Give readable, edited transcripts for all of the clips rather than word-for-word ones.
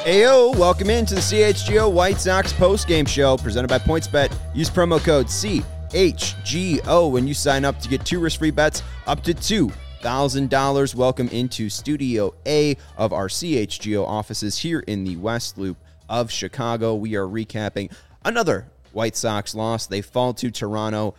Ayo, welcome into the CHGO White Sox postgame show presented by PointsBet. Use promo code CHGO when you sign up to get 2 risk-free bets up to $2,000. Welcome into Studio A of our CHGO offices here in the West Loop of Chicago. We are recapping another White Sox loss. They fall to Toronto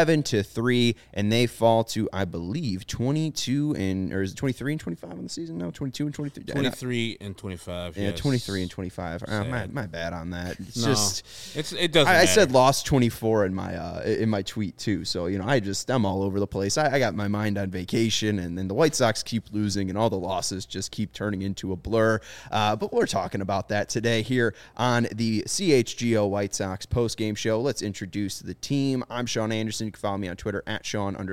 7-3, and they fall to, I believe, 22 and, or is it 23 and 25 on the season? No, 22 and 23. 23 and 25. Yeah, yes. 23 and 25. My bad on that. It doesn't. I said lost 24 in my tweet too. So I'm all over the place. I got my mind on vacation, and then the White Sox keep losing, and all the losses just keep turning into a blur. But we're talking about that today here on the CHGO White Sox postgame show. Let's introduce the team. I'm Sean Anderson. You can follow me on Twitter at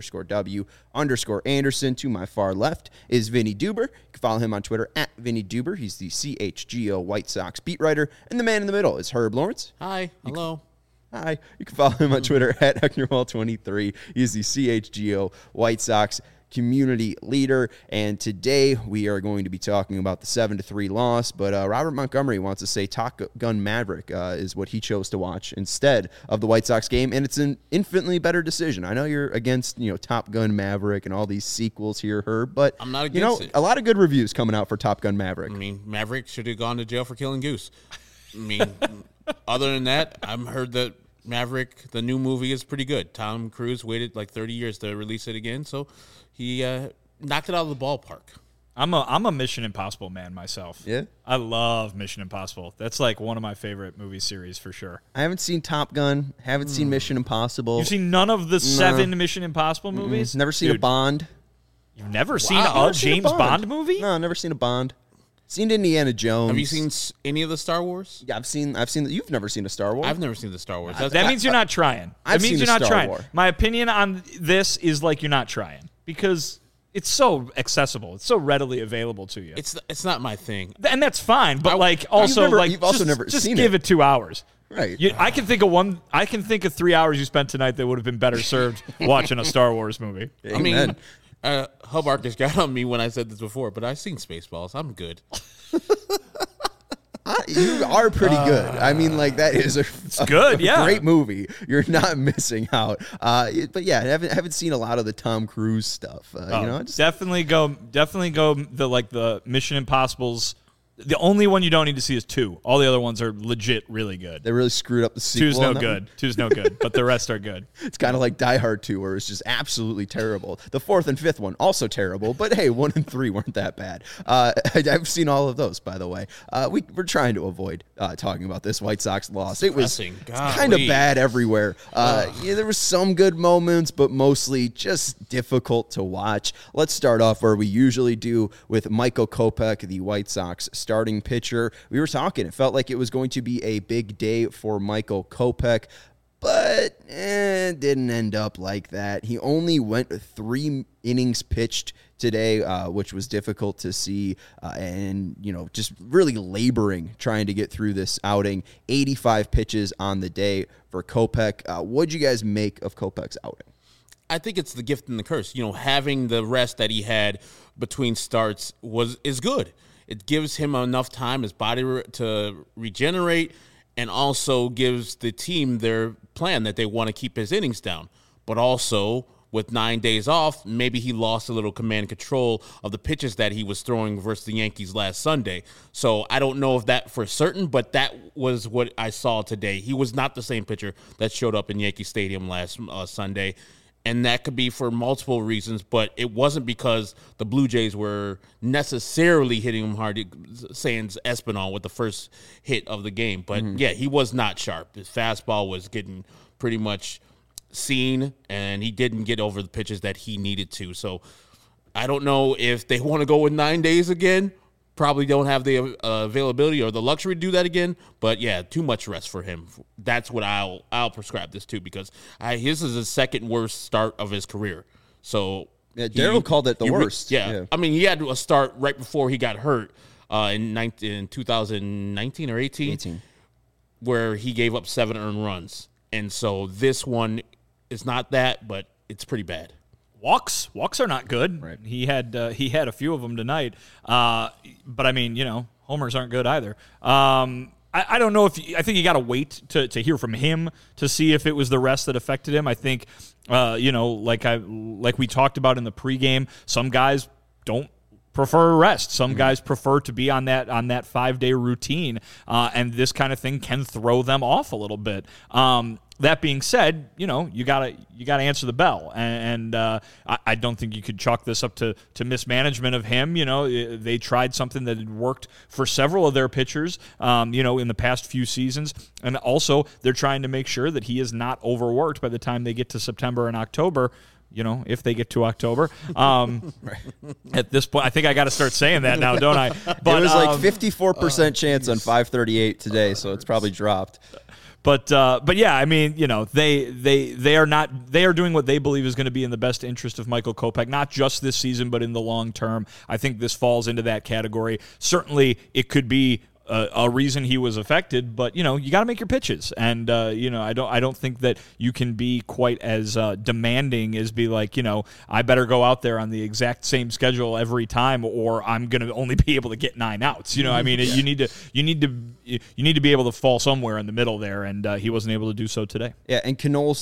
Sean_W_Anderson. To my far left is Vinny Duber. You can follow him on Twitter at Vinny Duber. He's the CHGO White Sox beat writer. And the man in the middle is Herb Lawrence. Hi. Hello. Hi. You can follow him on Twitter at HectorWall23. He's the CHGO White Sox community leader. And today we are going to be talking about the 7-3 loss. But Robert Montgomery wants to say Top Gun Maverick is what he chose to watch instead of the White Sox game. And it's an infinitely better decision. I know you're against, Top Gun Maverick and all these sequels here, Herb, but I'm not against it. A lot of good reviews coming out for Top Gun Maverick. I mean, Maverick should have gone to jail for killing Goose. I mean, other than that, I've heard that Maverick, the new movie, is pretty good. Tom Cruise waited like 30 years to release it again, so he knocked it out of the ballpark. I'm a Mission Impossible man myself. Yeah? I love Mission Impossible. That's like one of my favorite movie series for sure. I haven't seen Top Gun, haven't seen Mission Impossible. You've seen none of the 7 Mission Impossible movies? Never seen a Bond. You've never seen a James Bond movie? No, never seen a Bond. Seen Indiana Jones. Have you seen any of the Star Wars? Yeah, I've seen. You've never seen a Star Wars. I've never seen the Star Wars. That means you're not trying. I've That means seen you're the not Star trying. Wars. My opinion on this is like you're not trying because it's so accessible. It's so readily available to you. It's not my thing. And that's fine, but you've also never just seen give it. it 2 hours. Right. I can think of 3 hours you spent tonight that would have been better served watching a Star Wars movie. I mean, Hub Arcus got on me when I said this before, but I've seen Spaceballs. I'm good. You are pretty good. I mean, that is a great movie. You're not missing out. But yeah, I haven't seen a lot of the Tom Cruise stuff. Definitely go the Mission Impossibles. The only one you don't need to see is 2. All the other ones are legit really good. They really screwed up the sequel. 2's no good. 2's no good, but the rest are good. It's kind of like Die Hard 2, where it's just absolutely terrible. The 4th and 5th one, also terrible, but hey, 1 and 3 weren't that bad. I've seen all of those, by the way. We're trying to avoid talking about this White Sox loss. It was kind of bad everywhere. There were some good moments, but mostly just difficult to watch. Let's start off where we usually do with Michael Kopech, the White Sox starting pitcher. We were talking, it felt like it was going to be a big day for Michael Kopech, but it didn't end up like that. He only went 3 innings pitched today, which was difficult to see, and just really laboring trying to get through this outing. 85 pitches on the day for Kopech. What'd you guys make of Kopech's outing? I think it's the gift and the curse. Having the rest that he had between starts is good. It gives him enough time, his body to regenerate, and also gives the team their plan that they want to keep his innings down. But also, with 9 days off, maybe he lost a little command and control of the pitches that he was throwing versus the Yankees last Sunday. So I don't know if that for certain, but that was what I saw today. He was not the same pitcher that showed up in Yankee Stadium last Sunday. And that could be for multiple reasons, but it wasn't because the Blue Jays were necessarily hitting him hard, sans Espinal with the first hit of the game. But, yeah, he was not sharp. His fastball was getting pretty much seen, and he didn't get over the pitches that he needed to. So I don't know if they want to go with 9 days again. Probably don't have the availability or the luxury to do that again. But, yeah, too much rest for him. That's what I'll prescribe this to, because his is the second worst start of his career. So Daryl called it the worst. Yeah. I mean, he had a start right before he got hurt in 2019 or 18, where he gave up 7 earned runs. And so this one is not that, but it's pretty bad. Walks are not good. Right. He had a few of them tonight. But I mean, homers aren't good either. I don't know I think you got to wait to hear from him to see if it was the rest that affected him. I think, like we talked about in the pregame, some guys don't prefer rest. Some guys prefer to be on that 5-day routine, and this kind of thing can throw them off a little bit. That being said, you gotta answer the bell, and I don't think you could chalk this up to mismanagement of him. They tried something that had worked for several of their pitchers, in the past few seasons, and also they're trying to make sure that he is not overworked by the time they get to September and October. If they get to October. At this point, I think I got to start saying that now, don't I? But it was like 54% chance on 538 today, so it's probably dropped. But yeah, I mean, they are doing what they believe is going to be in the best interest of Michael Kopech, not just this season, but in the long term. I think this falls into that category. Certainly, it could be a reason he was affected, but you got to make your pitches, and I don't think that you can be quite as demanding as be like, I better go out there on the exact same schedule every time, or I'm going to only be able to get 9 outs. I mean, you need to be able to fall somewhere in the middle there, and he wasn't able to do so today. Yeah, and Knoll's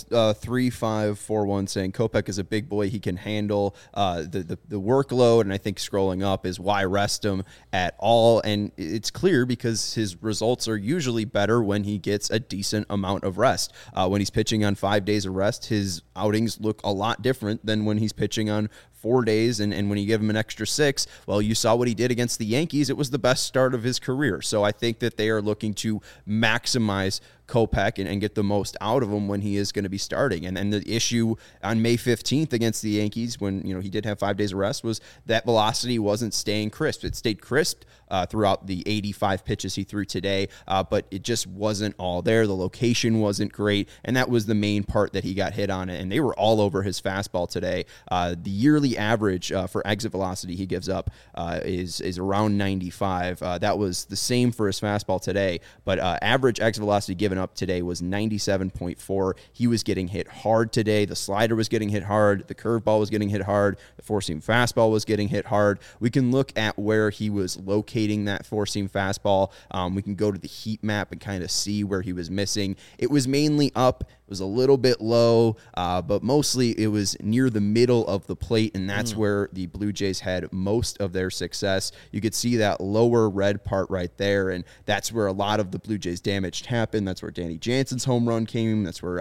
3541 saying Kopech is a big boy. He can handle the workload, and I think scrolling up is why rest him at all, and it's clear because his results are usually better when he gets a decent amount of rest. When he's pitching on 5 days of rest, his outings look a lot different than when he's pitching on 4 days, and when you give him an extra 6, well, you saw what he did against the Yankees. It was the best start of his career. So I think that they are looking to maximize Kopech and get the most out of him when he is going to be starting. And then the issue on May 15th against the Yankees, when he did have 5 days of rest, was that velocity wasn't staying crisp. It stayed crisp throughout the 85 pitches he threw today, but it just wasn't all there. The location wasn't great, and that was the main part that he got hit on, and they were all over his fastball today. The yearly average for exit velocity he gives up is around 95. That was the same for his fastball today, but average exit velocity given up today was 97.4. He was getting hit hard today. The slider was getting hit hard. The curveball was getting hit hard. The four-seam fastball was getting hit hard. We can look at where he was locating that four-seam fastball. We can go to the heat map and kind of see where he was missing. It was mainly up. It was a little bit low, but mostly it was near the middle of the plate, and that's where the Blue Jays had most of their success. You could see that lower red part right there, and that's where a lot of the Blue Jays damage happened. That's where Danny Jansen's home run came. That's where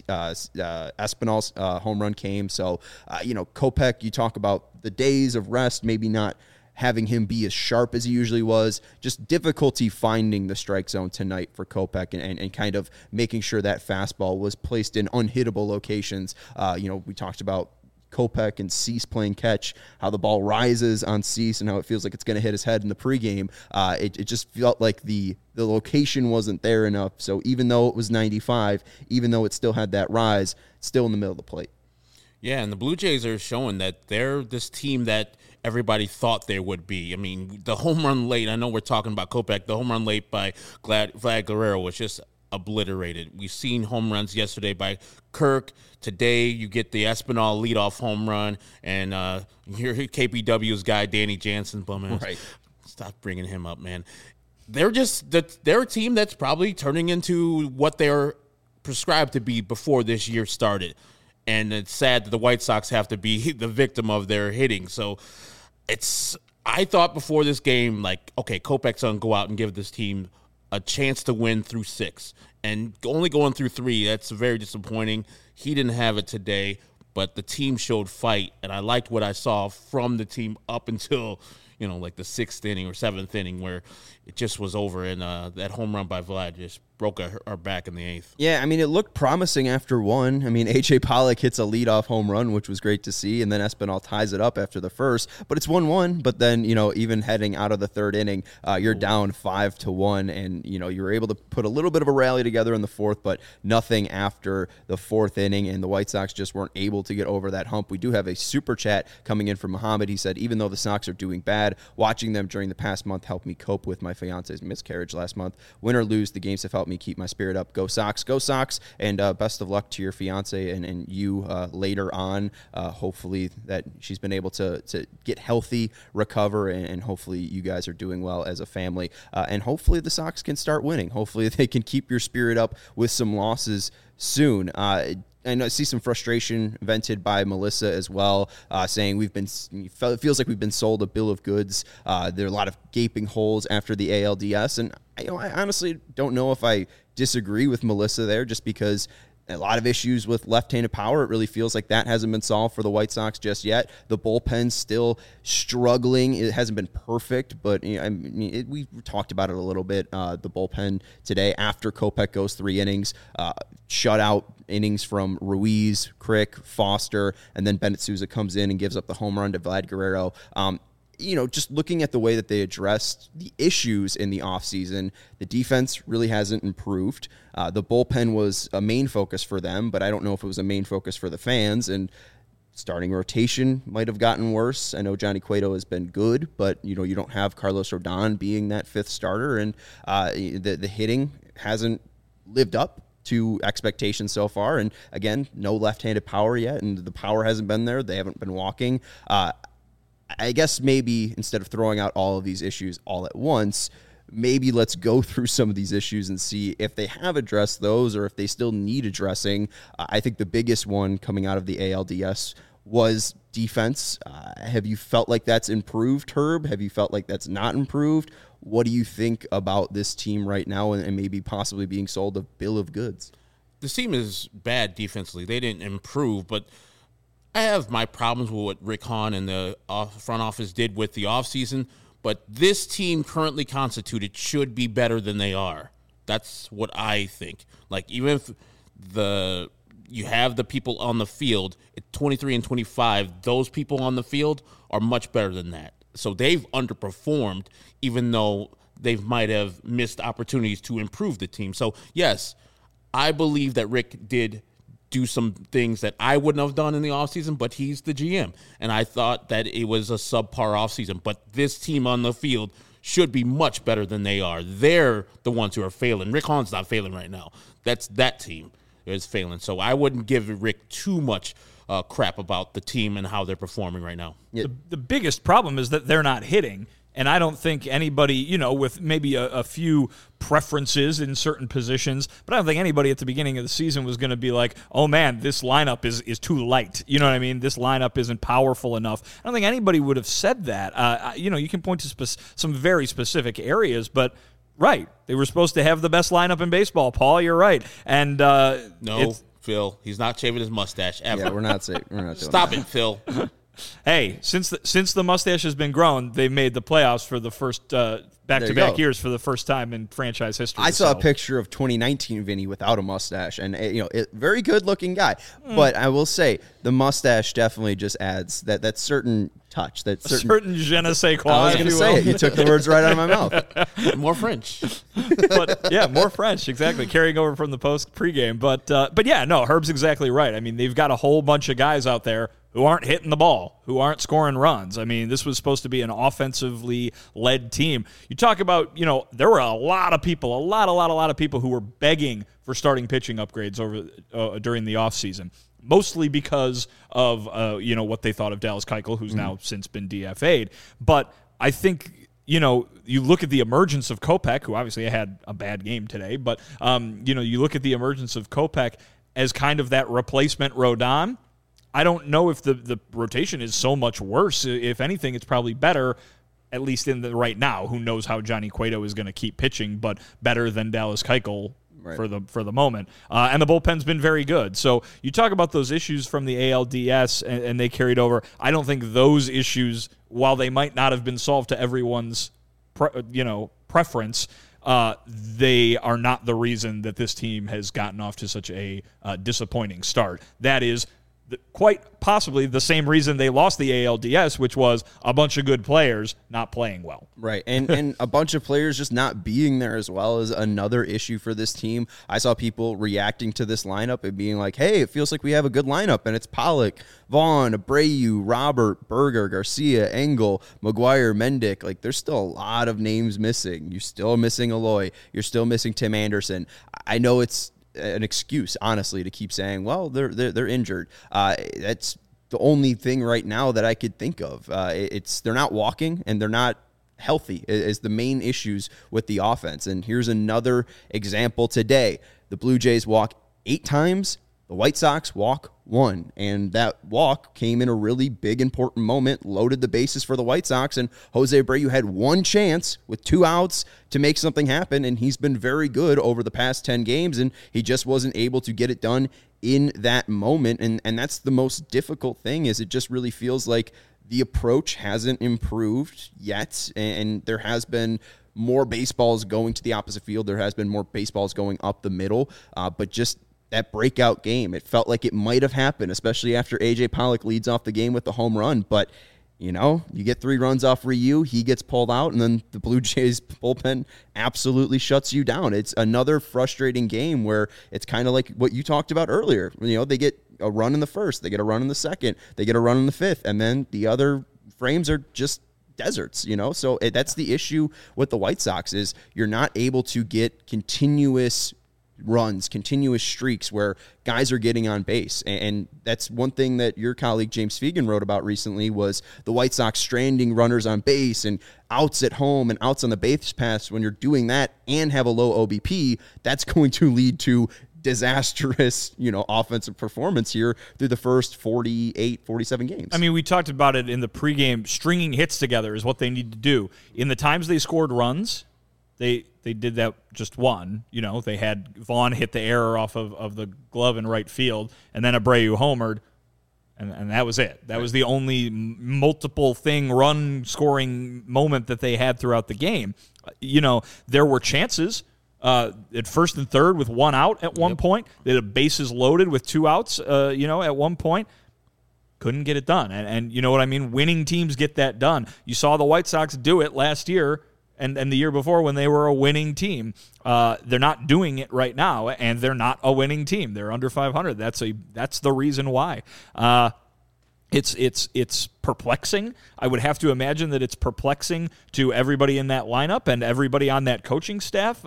Espinal's home run came. So, Kopech, you talk about the days of rest, maybe not having him be as sharp as he usually was, just difficulty finding the strike zone tonight for Kopech and kind of making sure that fastball was placed in unhittable locations. We talked about Kopech and Cease playing catch, how the ball rises on Cease and how it feels like it's going to hit his head in the pregame. It just felt like the location wasn't there enough. So even though it was 95, even though it still had that rise, it's still in the middle of the plate. Yeah, and the Blue Jays are showing that they're this team that everybody thought they would be. I mean, the home run late, I know we're talking about Kopech, the home run late by Vlad Guerrero was just obliterated. We've seen home runs yesterday by Kirk. Today, you get the Espinal leadoff home run, and here KPW's guy, Danny Jansen, right. Stop bringing him up, man. They're a team that's probably turning into what they're prescribed to be before this year started. And it's sad that the White Sox have to be the victim of their hitting. So I thought before this game, like, okay, Kopech's going to go out and give this team a chance to win through 6. And only going through 3, that's very disappointing. He didn't have it today, but the team showed fight. And I liked what I saw from the team up until, like the 6th inning or 7th inning where it just was over. And that home run by Vlad just broke our back in the 8th. Yeah, I mean, it looked promising after 1. I mean, A.J. Pollock hits a leadoff home run, which was great to see, and then Espinal ties it up after the first. But it's 1-1, but then, even heading out of the 3rd inning, you're down 5-1, and, you were able to put a little bit of a rally together in the 4th, but nothing after the 4th inning, and the White Sox just weren't able to get over that hump. We do have a super chat coming in from Muhammad. He said, even though the Sox are doing bad, watching them during the past month helped me cope with my fiance's miscarriage last month. Win or lose, the games have helped help me keep my spirit up. Go Sox, go Sox, and best of luck to your fiance and you later on. Hopefully that she's been able to get healthy, recover, and hopefully you guys are doing well as a family. And hopefully the Sox can start winning. Hopefully they can keep your spirit up with some losses soon. I see some frustration vented by Melissa as well, saying it feels like we've been sold a bill of goods. There are a lot of gaping holes after the ALDS, and I honestly don't know if I disagree with Melissa there, just because a lot of issues with left-handed power. It really feels like that hasn't been solved for the White Sox just yet. The bullpen's still struggling. It hasn't been perfect, but we talked about it a little bit. The bullpen today, after Kopech goes 3 innings, shutout innings from Ruiz, Crick, Foster, and then Bennett Sousa comes in and gives up the home run to Vlad Guerrero. Just looking at the way that they addressed the issues in the offseason, the defense really hasn't improved. The bullpen was a main focus for them, but I don't know if it was a main focus for the fans. And starting rotation might have gotten worse. I know Johnny Cueto has been good, but you don't have Carlos Rodon being that 5th starter, and the hitting hasn't lived up to expectations so far. And again, no left-handed power yet, and the power hasn't been there. They haven't been walking. I guess maybe instead of throwing out all of these issues all at once, maybe let's go through some of these issues and see if they have addressed those or if they still need addressing. I think the biggest one coming out of the ALDS was defense. Have you felt like that's improved, Herb? Have you felt like that's not improved? What do you think about this team right now and maybe possibly being sold a bill of goods? This team is bad defensively. They didn't improve, but I have my problems with what Rick Hahn and the front office did with the offseason, but this team currently constituted should be better than they are. That's what I think. Like, even if you have the people on the field at 23 and 25, those people on the field are much better than that. So they've underperformed, even though they might have missed opportunities to improve the team. So, yes, I believe that Rick did do some things that I wouldn't have done in the offseason, but he's the GM. And I thought that it was a subpar offseason. But this team on the field should be much better than they are. They're the ones who are failing. Rick Hahn's not failing right now. That team is failing. So I wouldn't give Rick too much crap about the team and how they're performing right now. The biggest problem is that they're not hitting. And I don't think anybody, with maybe a few preferences in certain positions, but I don't think anybody at the beginning of the season was going to be like, oh, man, this lineup is too light. You know what I mean? This lineup isn't powerful enough. I don't think anybody would have said that. You can point to some very specific areas, but right, they were supposed to have the best lineup in baseball. Paul, you're right. And no, Phil, he's not shaving his mustache ever. Yeah, we're not doing Stop that. it, Phil. Hey, since the mustache has been grown, they made the playoffs for the first back-to-back years for the first time in franchise history. I saw a picture of 2019 Vinny without a mustache, and very good-looking guy. But I will say the mustache definitely just adds that certain touch, that certain je ne sais quoi. I was going to say it. You took the words right out of my mouth. More French. But yeah, more French, exactly. Carrying over from the pregame. But yeah, no, Herb's exactly right. I mean, they've got a whole bunch of guys out there who aren't hitting the ball, who aren't scoring runs. I mean, this was supposed to be an offensively led team. You talk about, there were a lot of people, a lot of people who were begging for starting pitching upgrades during the offseason, mostly because of, what they thought of Dallas Keuchel, who's now since been DFA'd. But I think, you look at the emergence of Kopech, who obviously had a bad game today, but, you look at the emergence of Kopech as kind of that replacement Rodon. I don't know if the rotation is so much worse. If anything, it's probably better, at least in the right now. Who knows how Johnny Cueto is going to keep pitching, but better than Dallas Keuchel for the moment. And the bullpen's been very good. So you talk about those issues from the ALDS, and they carried over. I don't think those issues, while they might not have been solved to everyone's preference, they are not the reason that this team has gotten off to such a disappointing start. That is, quite possibly the same reason they lost the ALDS, which was a bunch of good players not playing well. Right. And a bunch of players just not being there as well is another issue for this team. I saw people reacting to this lineup and being like, hey, it feels like we have a good lineup, and it's Pollock, Vaughn, Abreu, Robert, Berger, Garcia, Engel, McGuire, Mendick. Like, there's still a lot of names missing. You're still missing Eloy. You're still missing Tim Anderson. I know it's an excuse, honestly, to keep saying, well, they're injured. That's the only thing right now that I could think of. They're not walking and they're not healthy is the main issues with the offense. And here's another example today. The Blue Jays walk 8 times. The White Sox walk 1, and that walk came in a really big, important moment, loaded the bases for the White Sox, and Jose Abreu had 1 chance with 2 outs to make something happen, and he's been very good over the past 10 games, and he just wasn't able to get it done in that moment, and that's the most difficult thing, is it just really feels like the approach hasn't improved yet, and there has been more baseballs going to the opposite field, there has been more baseballs going up the middle, but just that breakout game, it felt like it might have happened, especially after A.J. Pollock leads off the game with the home run. But, you get 3 runs off Ryu, he gets pulled out, and then the Blue Jays bullpen absolutely shuts you down. It's another frustrating game where it's kind of like what you talked about earlier. They get a run in the first, they get a run in the second, they get a run in the fifth, and then the other frames are just deserts, So that's the issue with the White Sox is you're not able to get continuous runs, continuous streaks where guys are getting on base. And that's one thing that your colleague James Fegan wrote about recently was the White Sox stranding runners on base and outs at home and outs on the base paths. When you're doing that and have a low OBP, that's going to lead to disastrous, offensive performance here through the first 47 games. I mean, we talked about it in the pregame. Stringing hits together is what they need to do. In the times they scored runs, They did that just one. They had Vaughn hit the error off of the glove in right field, and then Abreu homered, and that was it. That was the only multiple thing run-scoring moment that they had throughout the game. There were chances at first and third with 1 out at one point. They had bases loaded with 2 outs, at one point. Couldn't get it done. And you know what I mean? Winning teams get that done. You saw the White Sox do it last year and the year before when they were a winning team. They're not doing it right now, and they're not a winning team. They're under 500. That's the reason why. It's perplexing. I would have to imagine that it's perplexing to everybody in that lineup and everybody on that coaching staff.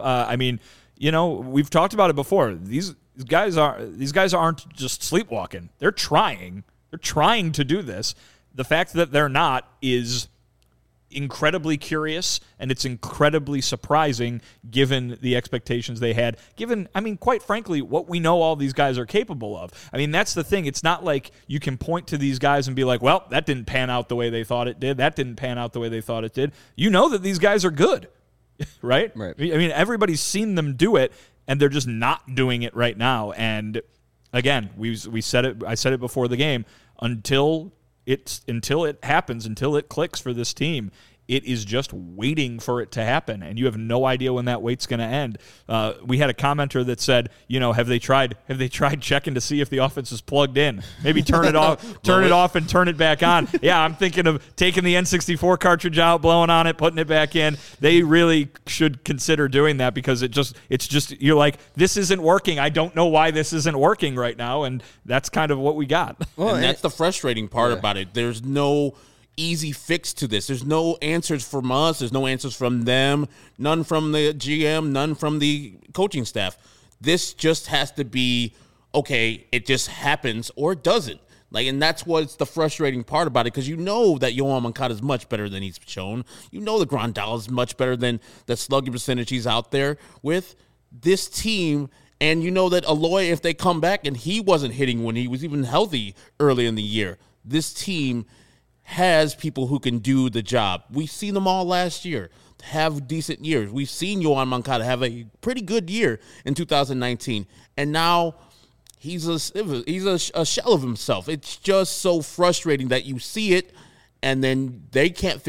We've talked about it before. These guys aren't just sleepwalking. They're trying. They're trying to do this. The fact that they're not is incredibly curious, and it's incredibly surprising given the expectations they had, quite frankly, what we know all these guys are capable of. That's the thing. It's not like you can point to these guys and be like, well, that didn't pan out the way they thought it did. That didn't pan out the way they thought it did. You know that these guys are good, right? Right. Everybody's seen them do it, and they're just not doing it right now. And again, we said it. I said it before the game. Until it happens, until it clicks for this team, it is just waiting for it to happen, and you have no idea when that wait's going to end. We had a commenter that said, have they tried checking to see if the offense is plugged in? Maybe turn it off, and turn it back on. Yeah, I'm thinking of taking the N64 cartridge out, blowing on it, putting it back in. They really should consider doing that because it's just you're like, this isn't working. I don't know why this isn't working right now, and that's kind of what we got. Well, and that's the frustrating part about it. There's no easy fix to this. There's no answers from us. There's no answers from them. None from the GM. None from the coaching staff. This just has to be, okay, it just happens or it doesn't. And that's what's the frustrating part about it, because you know that Yoan Moncada is much better than he's shown. You know that Grandal is much better than the slugging percentage he's out there with. This team, and you know that Eloy, if they come back, and he wasn't hitting when he was even healthy early in the year, this team has people who can do the job. We've seen them all last year have decent years. We've seen Yoan Moncada have a pretty good year in 2019, and now he's a shell of himself. It's just so frustrating that you see it, and then they can't fix it,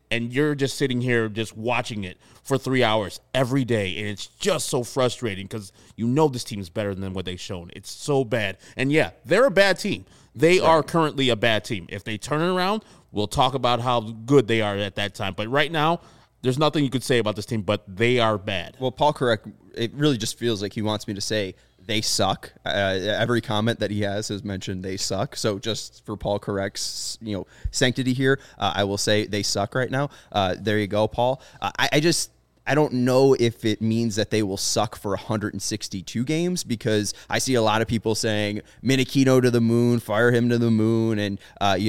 and you're just sitting here just watching it for 3 hours every day, and it's just so frustrating because you know this team is better than what they've shown. It's so bad. And, yeah, they're a bad team. They are currently a bad team. If they turn it around, we'll talk about how good they are at that time. But right now, there's nothing you could say about this team, but they are bad. Well, Paul Correct, it really just feels like he wants me to say they suck. Every comment that he has mentioned they suck. So just for Paul Correct's sanctity here, I will say they suck right now. There you go, Paul. I don't know if it means that they will suck for 162 games, because I see a lot of people saying Menachino to the moon, fire him to the moon, and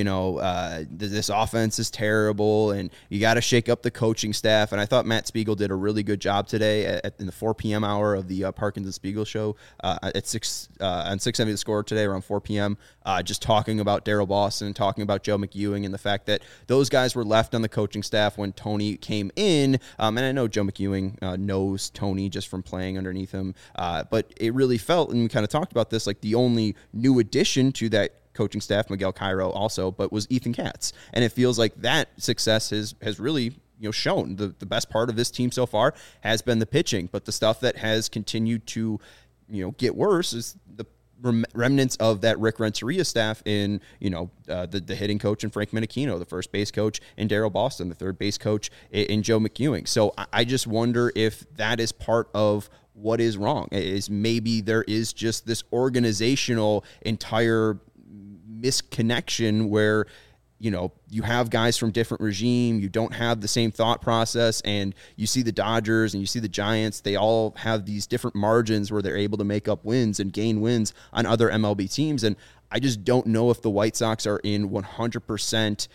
this offense is terrible, and you got to shake up the coaching staff. And I thought Matt Spiegel did a really good job today in the 4 p.m. hour of the Parkins and Spiegel show at 6 on 670 The Score today around 4 p.m. Just talking about Daryl Boston, talking about Joe McEwing, and the fact that those guys were left on the coaching staff when Tony came in. And I know Joe McEwing knows Tony just from playing underneath him. But it really felt, and we kind of talked about this, like the only new addition to that coaching staff, Miguel Cairo also, but was Ethan Katz. And it feels like that success has really shown. The best part of this team so far has been the pitching, but the stuff that has continued to get worse is the remnants of that Rick Renteria staff in, the hitting coach and Frank Menachino, the first base coach, and Daryl Boston, the third base coach, in Joe McEwing. So I just wonder if that is part of what is wrong. Is maybe there is just this organizational entire misconnection where you have guys from different regime, you don't have the same thought process, and you see the Dodgers and you see the Giants, they all have these different margins where they're able to make up wins and gain wins on other MLB teams. And I just don't know if the White Sox are in 100%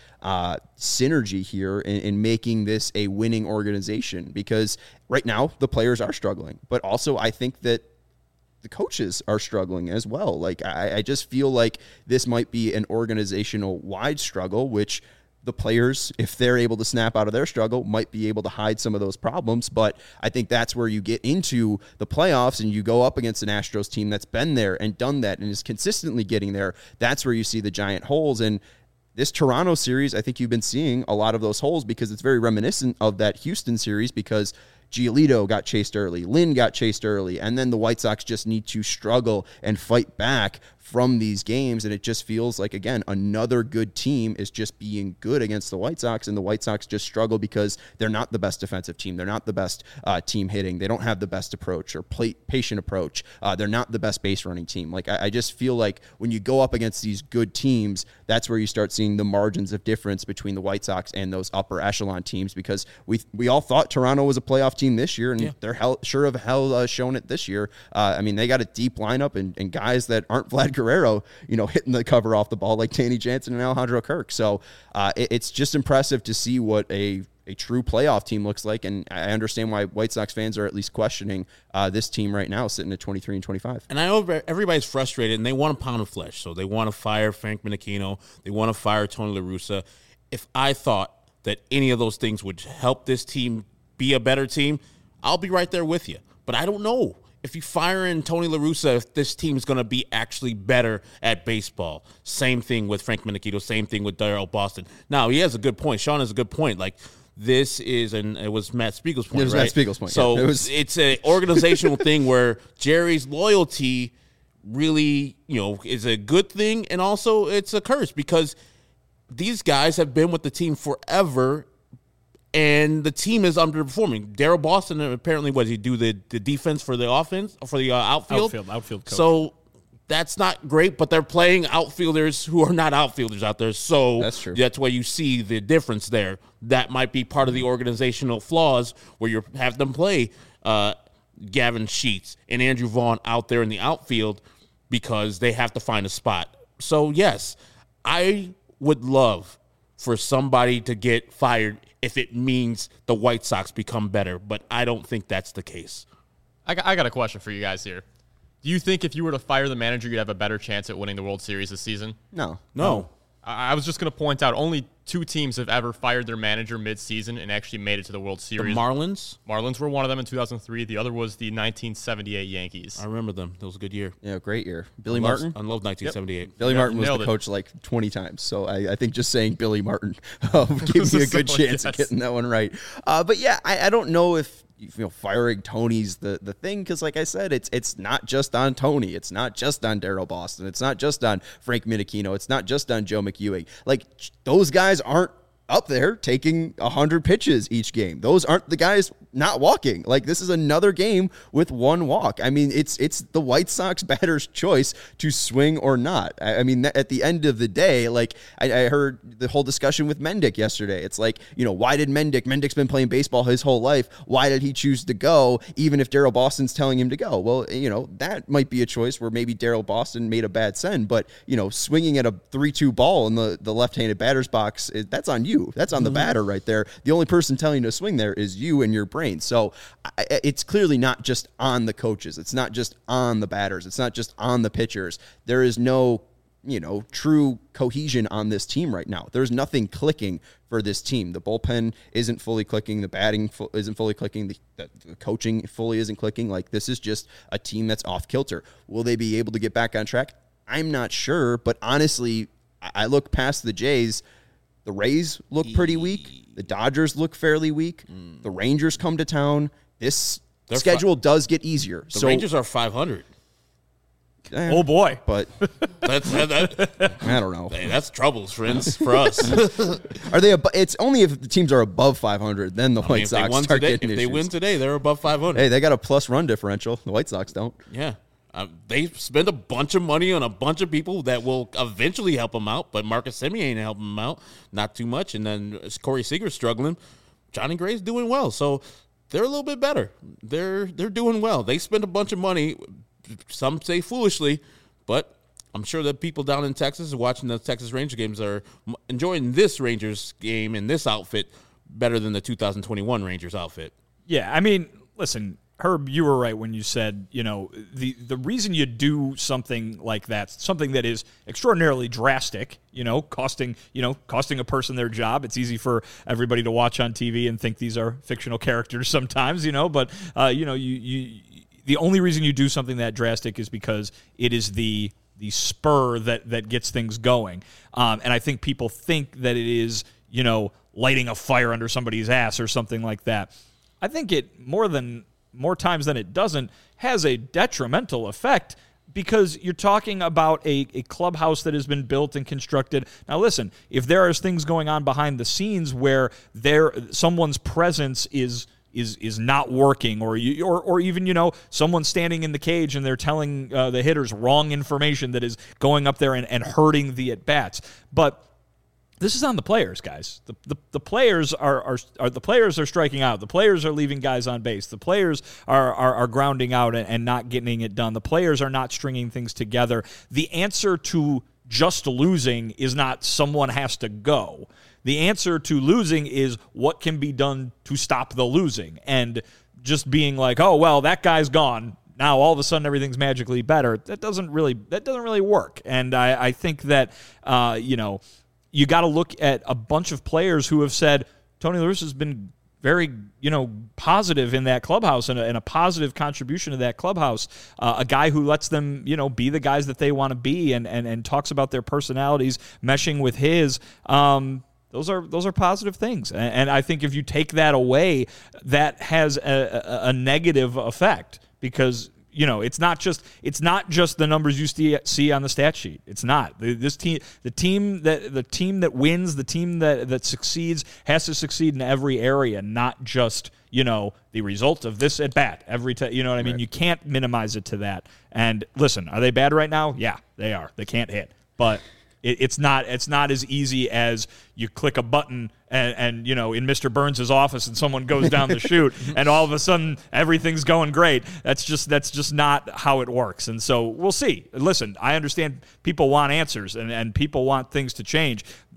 synergy here in making this a winning organization, because right now the players are struggling, but also I think that the coaches are struggling as well. Like, I just feel like this might be an organizational wide struggle, which the players, if they're able to snap out of their struggle, might be able to hide some of those problems. But I think that's where you get into the playoffs and you go up against an Astros team that's been there and done that and is consistently getting there. That's where you see the giant holes. And this Toronto series, I think you've been seeing a lot of those holes, because it's very reminiscent of that Houston series, because Giolito got chased early, Lynn got chased early, and then the White Sox just need to struggle and fight back from these games. And it just feels like, again, another good team is just being good against the White Sox, and the White Sox just struggle because they're not the best defensive team. They're not the best team hitting. They don't have the best approach or patient approach. They're not the best base running team. Like, I just feel like when you go up against these good teams, that's where you start seeing the margins of difference between the White Sox and those upper echelon teams, because we all thought Toronto was a playoff team this year, and they're sure of hell shown it this year. I mean, they got a deep lineup and guys that aren't Vlad Guerrero, hitting the cover off the ball like Danny Jansen and Alejandro Kirk. So it's just impressive to see what a true playoff team looks like, and I understand why White Sox fans are at least questioning this team right now, sitting at 23 and 25. And I know everybody's frustrated, and they want a pound of flesh, so they want to fire Frank Menachino, they want to fire Tony La Russa. If I thought that any of those things would help this team be a better team, I'll be right there with you. But I don't know if you fire in Tony La Russa, if this team is going to be actually better at baseball. Same thing with Frank Menachino, same thing with Daryl Boston. Now, he has a good point. Sean has a good point. Like, this is, and it was Matt Spiegel's point, It was right? Matt Spiegel's point. So yeah. it's an organizational thing where Jerry's loyalty really, is a good thing, and also it's a curse, because these guys have been with the team forever, and the team is underperforming. Daryl Boston, apparently, what did he do? The defense for the offense, for the outfield? Outfield coach. So that's not great, but they're playing outfielders who are not outfielders out there. So that's true. That's why you see the difference there. That might be part of the organizational flaws, where you have them play Gavin Sheets and Andrew Vaughn out there in the outfield because they have to find a spot. So, yes, I would love for somebody to get fired if it means the White Sox become better, but I don't think that's the case. I got a question for you guys here. Do you think if you were to fire the manager, you'd have a better chance at winning the World Series this season? No. I was just going to point out only 2 teams have ever fired their manager mid-season and actually made it to the World Series. The Marlins? Marlins were one of them in 2003. The other was the 1978 Yankees. I remember them. That was a good year. Yeah, great year. Billy Martin? I love 1978. Yep. Billy Martin was nailed the it. coach like 20 times. So I think just saying Billy Martin gave me a good So, chance yes. of getting that one right. But yeah, I don't know if firing Tony's the thing, because like I said, it's not just on Tony. It's not just on Daryl Boston. It's not just on Frank Minikino. It's not just on Joe McEwing. Like, those guys aren't up there taking 100 pitches each game. Those aren't the guys not walking. Like, this is another game with 1 walk. I mean, it's the White Sox batter's choice to swing or not. I mean, at the end of the day, like, I heard the whole discussion with Mendick yesterday. It's like, why did Mendick's been playing baseball his whole life. Why did he choose to go, even if Daryl Boston's telling him to go? Well, that might be a choice where maybe Daryl Boston made a bad send, but, swinging at a 3-2 ball in the left-handed batter's box, that's on you. That's on the batter right there. The only person telling you to swing there is you and your brain. So it's clearly not just on the coaches. It's not just on the batters. It's not just on the pitchers. There is no, true cohesion on this team right now. There's nothing clicking for this team. The bullpen isn't fully clicking. The batting isn't fully clicking. The coaching fully isn't clicking. Like, this is just a team that's off kilter. Will they be able to get back on track? I'm not sure, but honestly, I look past the Jays. The Rays look pretty weak. The Dodgers look fairly weak. The Rangers come to town. This schedule does get easier. The Rangers are 500. Oh boy! But That's I don't know. hey, that's troubles, friends, for us. Are they? It's only if the teams are above 500, then the I mean, White if they Sox won start today, getting if they issues. win today, they're above 500. Hey, they got a plus run differential. The White Sox don't. Yeah. They spend a bunch of money on a bunch of people that will eventually help them out, but Marcus Semien ain't helping them out, not too much. And then Corey Seager's struggling. Johnny Gray's doing well, so they're a little bit better. They're doing well. They spend a bunch of money, some say foolishly, but I'm sure that people down in Texas watching the Texas Ranger games are enjoying this Rangers game in this outfit better than the 2021 Rangers outfit. Yeah, I mean, listen, Herb, you were right when you said, the reason you do something like that, something that is extraordinarily drastic, costing a person their job. It's easy for everybody to watch on TV and think these are fictional characters sometimes, but the only reason you do something that drastic is because it is the spur that gets things going. And I think people think that it is, lighting a fire under somebody's ass or something like that. I think it more times than it doesn't, has a detrimental effect, because you're talking about a clubhouse that has been built and constructed. Now, listen, if there are things going on behind the scenes where someone's presence is not working, or even someone standing in the cage and they're telling the hitters wrong information that is going up there and hurting the at bats, but this is on the players, guys. The players are the players are striking out. The players are leaving guys on base. The players are grounding out and not getting it done. The players are not stringing things together. The answer to just losing is not someone has to go. The answer to losing is what can be done to stop the losing. And just being like, oh well, that guy's gone, now all of a sudden everything's magically better. That doesn't really work. And I think that you got to look at a bunch of players who have said Tony La Russa has been very, positive in that clubhouse and a positive contribution to that clubhouse. A guy who lets them, be the guys that they want to be and talks about their personalities meshing with his. Those are positive things. And I think if you take that away, that has a negative effect, because it's not just the numbers you see on the stat sheet. It's not. The team that wins, the team that succeeds has to succeed in every area, not just the result of this at bat every time. You know what I mean? Right. You can't minimize it to that. And listen, are they bad right now? Yeah, they are. They can't hit, but it's not as easy as you click a button and in Mr. Burns' office and someone goes down the chute and all of a sudden everything's going great. That's just not how it works. And so we'll see. Listen, I understand people want answers and people want things to change.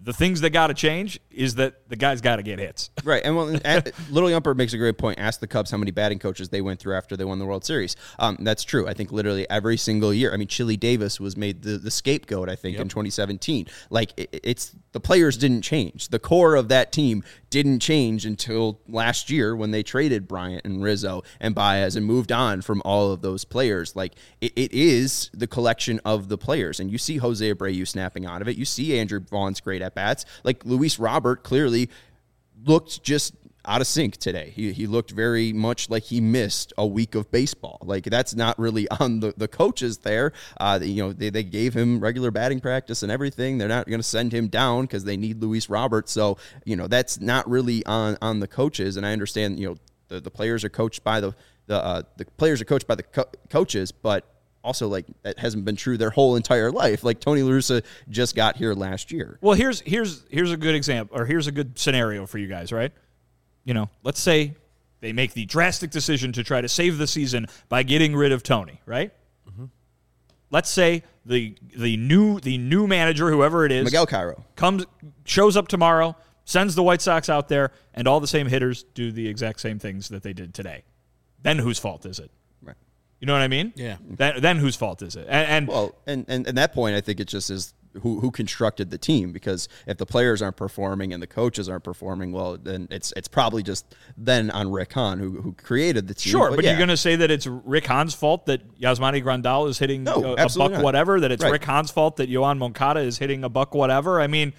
the things that got to change is that the guy's got to get hits. Right. And Little Yumper makes a great point. Ask the Cubs how many batting coaches they went through after they won the World Series. That's true. I think literally every single year. I mean, Chili Davis was made the scapegoat, I think, in 2017. Like, it's the players didn't change. The core of that team didn't change until last year when they traded Bryant and Rizzo and Baez and moved on from all of those players. Like, it is the collection of the players. And you see Jose Abreu snapping out of it. You see Andrew Vaughn's great at-bats. Like, Luis Robert clearly looked just out of sync today. He looked very much like he missed a week of baseball. Like, that's not really on the coaches there. They gave him regular batting practice and everything. They're not going to send him down because they need Luis Robert. So, that's not really on the coaches. And I understand, the players are coached by the players are coached by the coaches, but also, like, that hasn't been true their whole entire life. Like, Tony La Russa just got here last year. Well, here's a good example, or here's a good scenario for you guys, right? Let's say they make the drastic decision to try to save the season by getting rid of Tony, right? Mm-hmm. Let's say the new manager, whoever it is, Miguel Cairo, shows up tomorrow, sends the White Sox out there, and all the same hitters do the exact same things that they did today. Then whose fault is it? Right. You know what I mean? Yeah. Then whose fault is it? And at that point, I think it just is who constructed the team, because if the players aren't performing and the coaches aren't performing, well, then it's probably just then on Rick Hahn who created the team. Sure, but you're going to say that it's Rick Hahn's fault that Yasmani Grandal is hitting a buck not. whatever, that it's Right. Rick Hahn's fault that Yohan Moncada is hitting a buck whatever. I mean,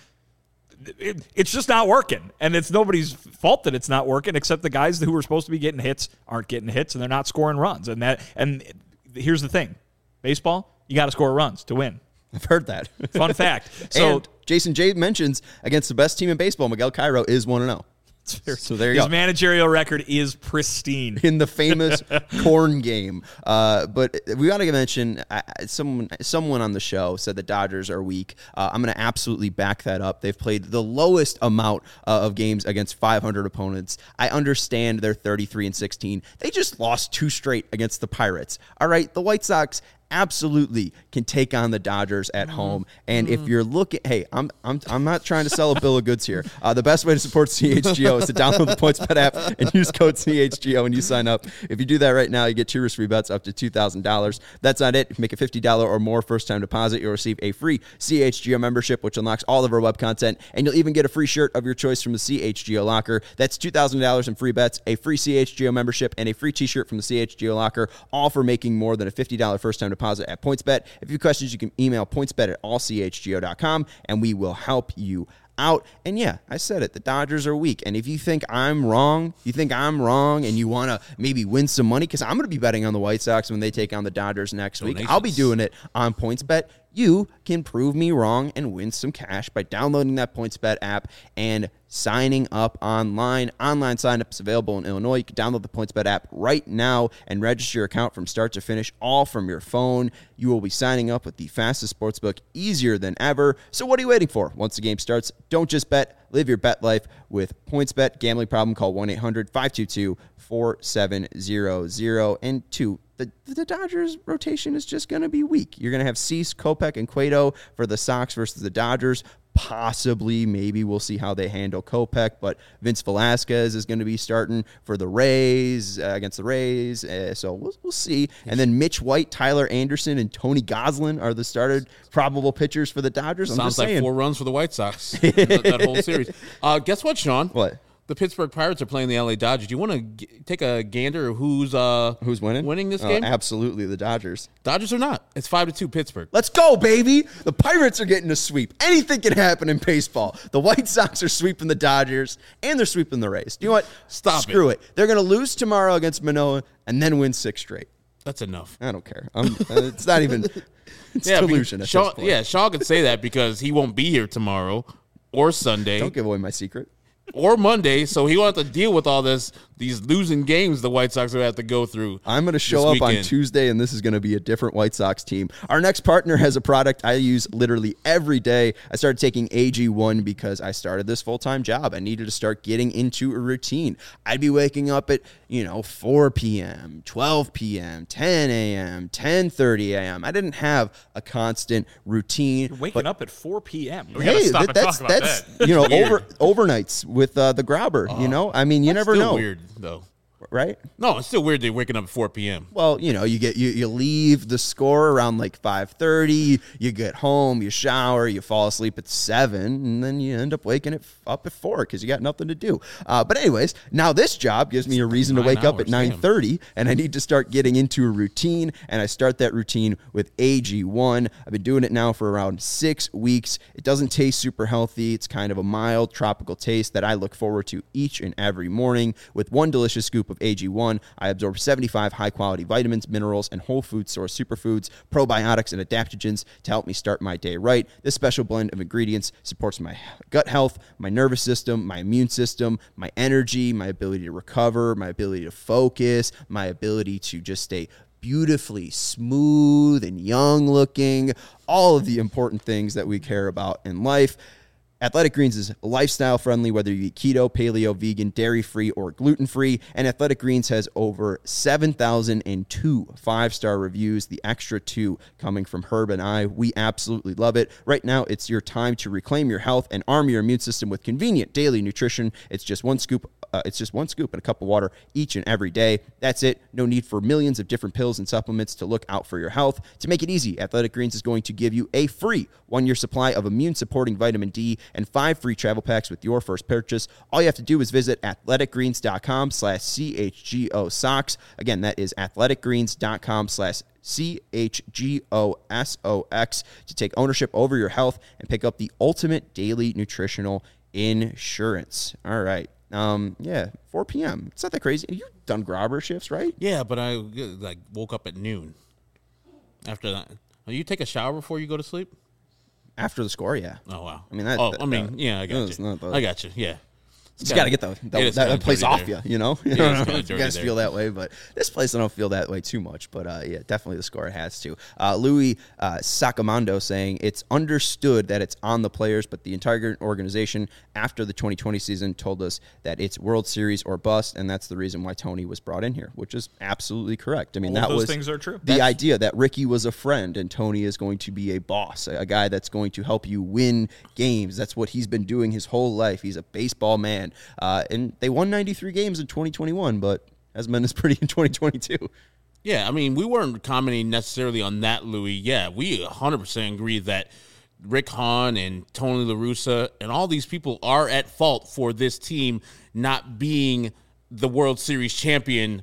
it's just not working, and it's nobody's fault that it's not working, except the guys who were supposed to be getting hits aren't getting hits, and they're not scoring runs. And here's the thing, baseball, you got to score runs to win. I've heard that. Fun fact. So and Jason J mentions against the best team in baseball, Miguel Cairo is 1-0. So there you his go. managerial record is pristine. In the famous corn game. But we got to mention, someone on the show said the Dodgers are weak. I'm going to absolutely back that up. They've played the lowest amount of games against 500 opponents. I understand they're 33-16. They just lost 2 straight against the Pirates. All right, the White Sox absolutely can take on the Dodgers at home. And if you're looking, hey, I'm not trying to sell a bill of goods here. The best way to support CHGO is to download the PointsBet app and use code CHGO when you sign up. If you do that right now, you get 2 risk-free bets up to $2,000. That's not it. If you make a $50 or more first-time deposit, you'll receive a free CHGO membership, which unlocks all of our web content, and you'll even get a free shirt of your choice from the CHGO Locker. That's $2,000 in free bets, a free CHGO membership, and a free t-shirt from the CHGO Locker, all for making more than a $50 first-time deposit at PointsBet. If you have questions, you can email pointsbet@allchgo.com, and we will help you out. And yeah, I said it. The Dodgers are weak. And if you think I'm wrong, and you want to maybe win some money, because I'm going to be betting on the White Sox when they take on the Dodgers next week. I'll be doing it on PointsBet. You can prove me wrong and win some cash by downloading that PointsBet app and signing up online. Online sign-up is available in Illinois. You can download the PointsBet app right now and register your account from start to finish, all from your phone. You will be signing up with the fastest sportsbook, easier than ever. So what are you waiting for? Once the game starts, don't just bet. Live your bet life with PointsBet. Gambling problem? Call 1-800-522-4700. And 2, the Dodgers rotation is just going to be weak. You're going to have Cease, Kopech, and Cueto for the Sox versus the Dodgers. Possibly, maybe we'll see how they handle Kopech, but Vince Velasquez is going to be starting for the Rays, against the Rays, so we'll see. And then Mitch White, Tyler Anderson, and Tony Gonsolin are the started probable pitchers for the Dodgers. Sounds like 4 runs for the White Sox, that whole series. Guess what, Sean? What? The Pittsburgh Pirates are playing the LA Dodgers. Do you want to take a gander of who's winning this game? Absolutely, the Dodgers. Dodgers are not. It's 5-2 Pittsburgh. Let's go, baby. The Pirates are getting a sweep. Anything can happen in baseball. The White Sox are sweeping the Dodgers, and they're sweeping the Rays. You know what? Screw it. They're going to lose tomorrow against Manoah and then win 6 straight. That's enough. I don't care. It's not even. It's delusion at this point. Yeah, Shaw could say that because he won't be here tomorrow or Sunday. Don't give away my secret. Or Monday, so he won't have to deal with all this these losing games the White Sox will have to go through. I'm going to show up on Tuesday, and this is going to be a different White Sox team. Our next partner has a product I use literally every day. I started taking AG1 because I started this full-time job. I needed to start getting into a routine. I'd be waking up at, 4 p.m., 12 p.m., 10 a.m., 10:30 a.m. I didn't have a constant routine. You're waking up at 4 p.m. We gotta stop and talk about that's that. overnights with the grabber. I mean, you never know. Weird though. Right? No, it's still weird they're waking up at 4 p.m. Well, you leave the score around like 5:30, you get home, you shower, you fall asleep at 7, and then you end up waking up at 4 because you got nothing to do. But anyways, now this job gives me a reason to wake up at 9:30, and I need to start getting into a routine, and I start that routine with AG1. I've been doing it now for around 6 weeks. It doesn't taste super healthy. It's kind of a mild tropical taste that I look forward to each and every morning. With one delicious scoop of AG1, I absorb 75 high-quality vitamins, minerals, and whole food source superfoods, probiotics, and adaptogens to help me start my day right. This special blend of ingredients supports my gut health, my nervous system, my immune system, my energy, my ability to recover, my ability to focus, my ability to just stay beautifully smooth and young looking, all of the important things that we care about in life. Athletic Greens is lifestyle friendly, whether you eat keto, paleo, vegan, dairy-free, or gluten-free. And Athletic Greens has over 7,002 5-star reviews, the extra 2 coming from Herb and I. We absolutely love it. Right now, it's your time to reclaim your health and arm your immune system with convenient daily nutrition. It's just one scoop and a cup of water each and every day. That's it. No need for millions of different pills and supplements to look out for your health. To make it easy, Athletic Greens is going to give you a free 1-year supply of immune-supporting vitamin D and 5 free travel packs with your first purchase. All you have to do is visit athleticgreens.com/CHGO socks. Again, that is athleticgreens.com/CHGOSOX to take ownership over your health and pick up the ultimate daily nutritional insurance. All right. 4 p.m. It's not that crazy. You've done grabber shifts, right? Yeah, but I woke up at noon. After that, you take a shower before you go to sleep? After the score, yeah. Oh wow. I mean, I got you. I got you. Yeah. Just got to get that place off you, You guys there. feel that way, but this place I don't feel that way too much. But definitely the score has to. Louis Sacamando saying it's understood that it's on the players, but the entire organization after the 2020 season told us that it's World Series or bust, and that's the reason why Tony was brought in here, which is absolutely correct. I mean, all that those was things are true. The idea that Ricky was a friend and Tony is going to be a boss, a guy that's going to help you win games. That's what he's been doing his whole life. He's a baseball man. And they won 93 games in 2021, but hasn't been as pretty in 2022. Yeah, I mean, we weren't commenting necessarily on that, Louis. Yeah, we 100% agree that Rick Hahn and Tony La Russa and all these people are at fault for this team not being the World Series champion,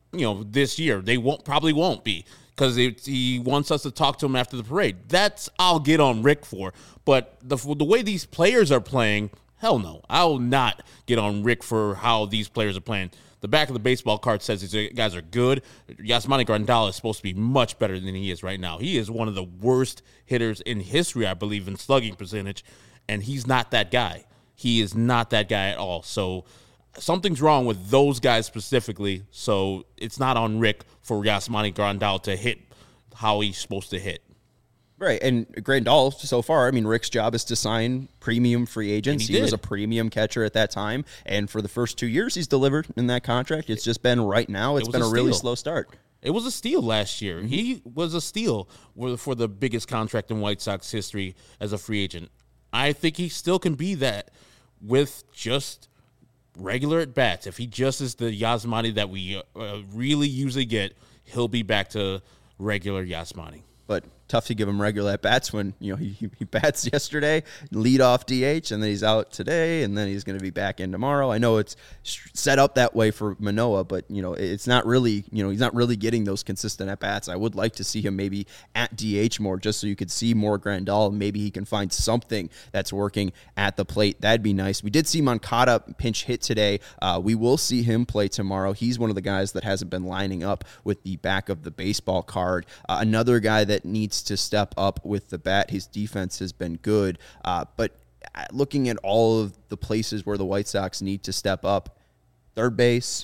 this year. They probably won't be because he wants us to talk to him after the parade. That's I'll get on Rick for. But the way these players are playing, hell no. I will not get on Rick for how these players are playing. The back of the baseball card says these guys are good. Yasmani Grandal is supposed to be much better than he is right now. He is one of the worst hitters in history, I believe, in slugging percentage, and he's not that guy. He is not that guy at all. So something's wrong with those guys specifically, so it's not on Rick for Yasmani Grandal to hit how he's supposed to hit. Right, and Grandal, so far, I mean, Rick's job is to sign premium free agents. He was a premium catcher at that time, and for the first 2 years, he's delivered in that contract. It's just been right now, it's been a really slow start. It was a steal last year. Mm-hmm. He was a steal for the biggest contract in White Sox history as a free agent. I think he still can be that with just regular at-bats. If he just is the Yasmani that we really usually get, he'll be back to regular Yasmani. But tough to give him regular at-bats when, he bats yesterday, lead off DH, and then he's out today, and then he's going to be back in tomorrow. I know it's set up that way for Manoah, but, it's not really, he's not really getting those consistent at-bats. I would like to see him maybe at DH more just so you could see more Grandal. Maybe he can find something that's working at the plate. That'd be nice. We did see Moncada pinch hit today. We will see him play tomorrow. He's one of the guys that hasn't been lining up with the back of the baseball card. Another guy that needs to step up with the bat. His defense has been good, but looking at all of the places where the White Sox need to step up, third base,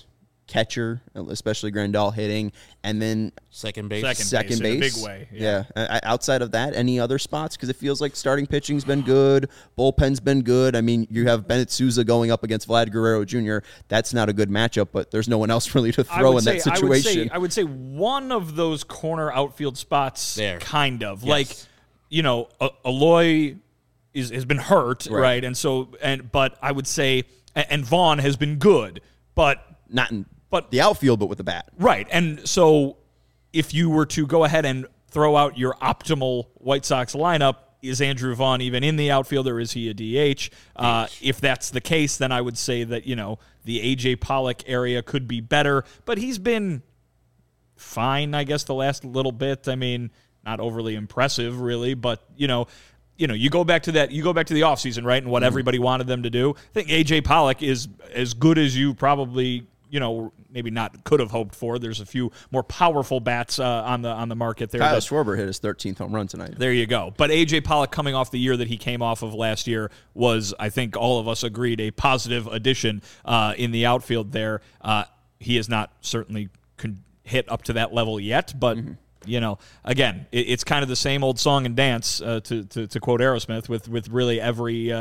catcher, especially Grandal hitting, and then Second base. second in a base. big way. Yeah. Outside of that, any other spots? Because it feels like starting pitching's been good, bullpen's been good. I mean, you have Bennett Sousa going up against Vlad Guerrero Jr. That's not a good matchup, but there's no one else really to throw in that situation. I would say one of those corner outfield spots, kind of. Yes. Like, Eloy has been hurt, right? But I would say, and Vaughn has been good, but not in the outfield, but with the bat. Right. And so if you were to go ahead and throw out your optimal White Sox lineup, is Andrew Vaughn even in the outfield, or is he a DH? If that's the case, then I would say that, the A.J. Pollock area could be better, but he's been fine, I guess, the last little bit. I mean, not overly impressive, really, but, you go back to the offseason, right, and what everybody wanted them to do. I think A.J. Pollock is as good as you probably maybe not could have hoped for. There's a few more powerful bats on the market there. Kyle Schwarber hit his 13th home run tonight. There you go. But A.J. Pollock, coming off the year that he came off of last year, was, I think all of us agreed, a positive addition in the outfield there. He has not certainly hit up to that level yet, but again, it's kind of the same old song and dance, to quote Aerosmith, with really every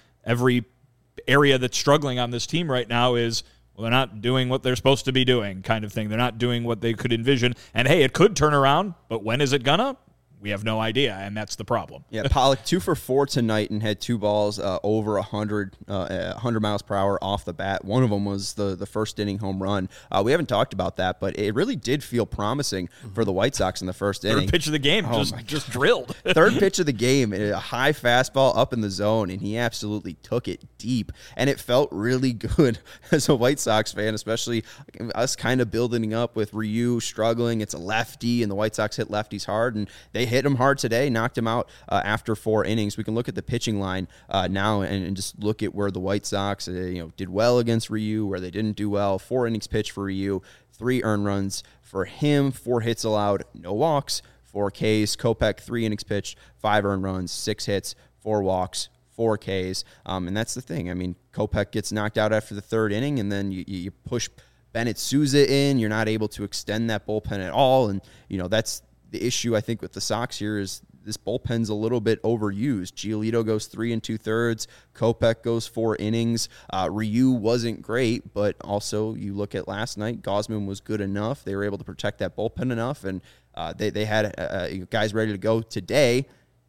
area that's struggling on this team right now is, well, they're not doing what they're supposed to be doing, kind of thing. They're not doing what they could envision. And, hey, it could turn around, but when is it gonna? We have no idea, and that's the problem. Yeah, Pollock 2 for 4 tonight and had 2 balls over 100 miles per hour off the bat. One of them was the first inning home run. We haven't talked about that, but it really did feel promising for the White Sox in the first inning. Third pitch of the game, just drilled. Third pitch of the game, a high fastball up in the zone, and he absolutely took it deep. And it felt really good as a White Sox fan, especially us kind of building up with Ryu struggling. It's a lefty, and the White Sox hit lefties hard, and they hit him hard today, knocked him out after 4 innings. We can look at the pitching line now and just look at where the White Sox did well against Ryu, where they didn't do well. 4 innings pitched for Ryu, 3 earned runs for him, 4 hits allowed, no walks, 4 Ks. Kopech, 3 innings pitched, 5 earned runs, 6 hits, 4 walks, 4 Ks. And that's the thing. I mean, Kopech gets knocked out after the 3rd inning, and then you push Bennett Sousa in. You're not able to extend that bullpen at all, and that's the issue, I think, with the Sox here is this bullpen's a little bit overused. Giolito goes 3 2/3. Kopech goes 4 innings. Ryu wasn't great, but also you look at last night, Gausman was good enough. They were able to protect that bullpen enough, and they had guys ready to go today.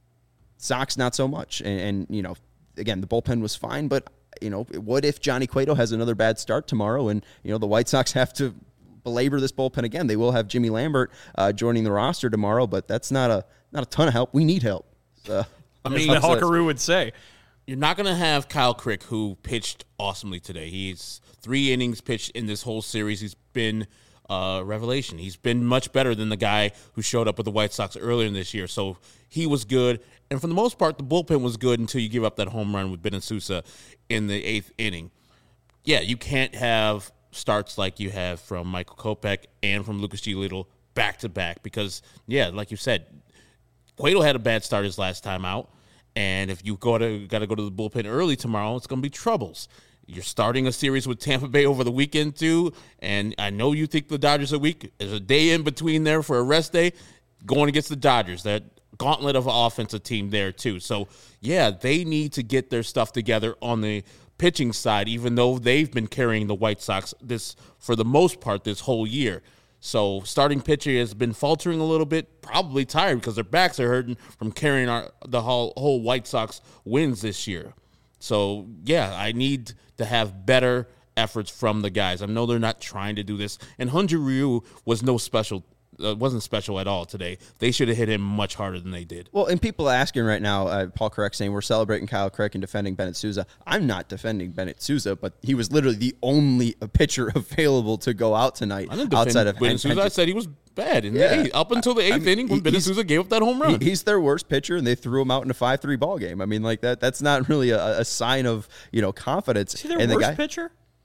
Sox, not so much. And again, the bullpen was fine, but, what if Johnny Cueto has another bad start tomorrow and, the White Sox have to belabor this bullpen again? They will have Jimmy Lambert joining the roster tomorrow, but that's not a ton of help. We need help. So, I mean, the Hawkaroo would say. You're not going to have Kyle Crick, who pitched awesomely today. He's 3 innings pitched in this whole series. He's been revelation. He's been much better than the guy who showed up with the White Sox earlier in this year. So he was good. And for the most part, the bullpen was good until you give up that home run with Bennett Sousa in the 8th inning. Yeah, you can't have starts like you have from Michael Kopech and from Lucas Giolito back-to-back because, yeah, like you said, Cueto had a bad start his last time out, and if you got to go to the bullpen early tomorrow, it's going to be troubles. You're starting a series with Tampa Bay over the weekend, too, and I know you think the Dodgers are weak. There's a day in between there for a rest day going against the Dodgers. That gauntlet of an offensive team there, too. So, yeah, they need to get their stuff together on the pitching side, even though they've been carrying the White Sox for the most part this whole year. So starting pitcher has been faltering a little bit, probably tired because their backs are hurting from carrying the whole White Sox wins this year. So, yeah, I need to have better efforts from the guys. I know they're not trying to do this. And Hyun-Jin Ryu was wasn't special at all today. They should have hit him much harder than they did. Well, and people are asking right now, Paul Correct saying we're celebrating Kyle Crick and defending Bennett Sousa. I'm not defending Bennett Sousa, but he was literally the only pitcher available to go out tonight outside of Bennett Sousa. I said he was bad in the 8th, up until the 8th inning when Bennett Sousa gave up that home run. He's their worst pitcher, and they threw him out in a 5-3 ball game. I mean, like that's not really a sign of confidence. Is he their worst pitcher?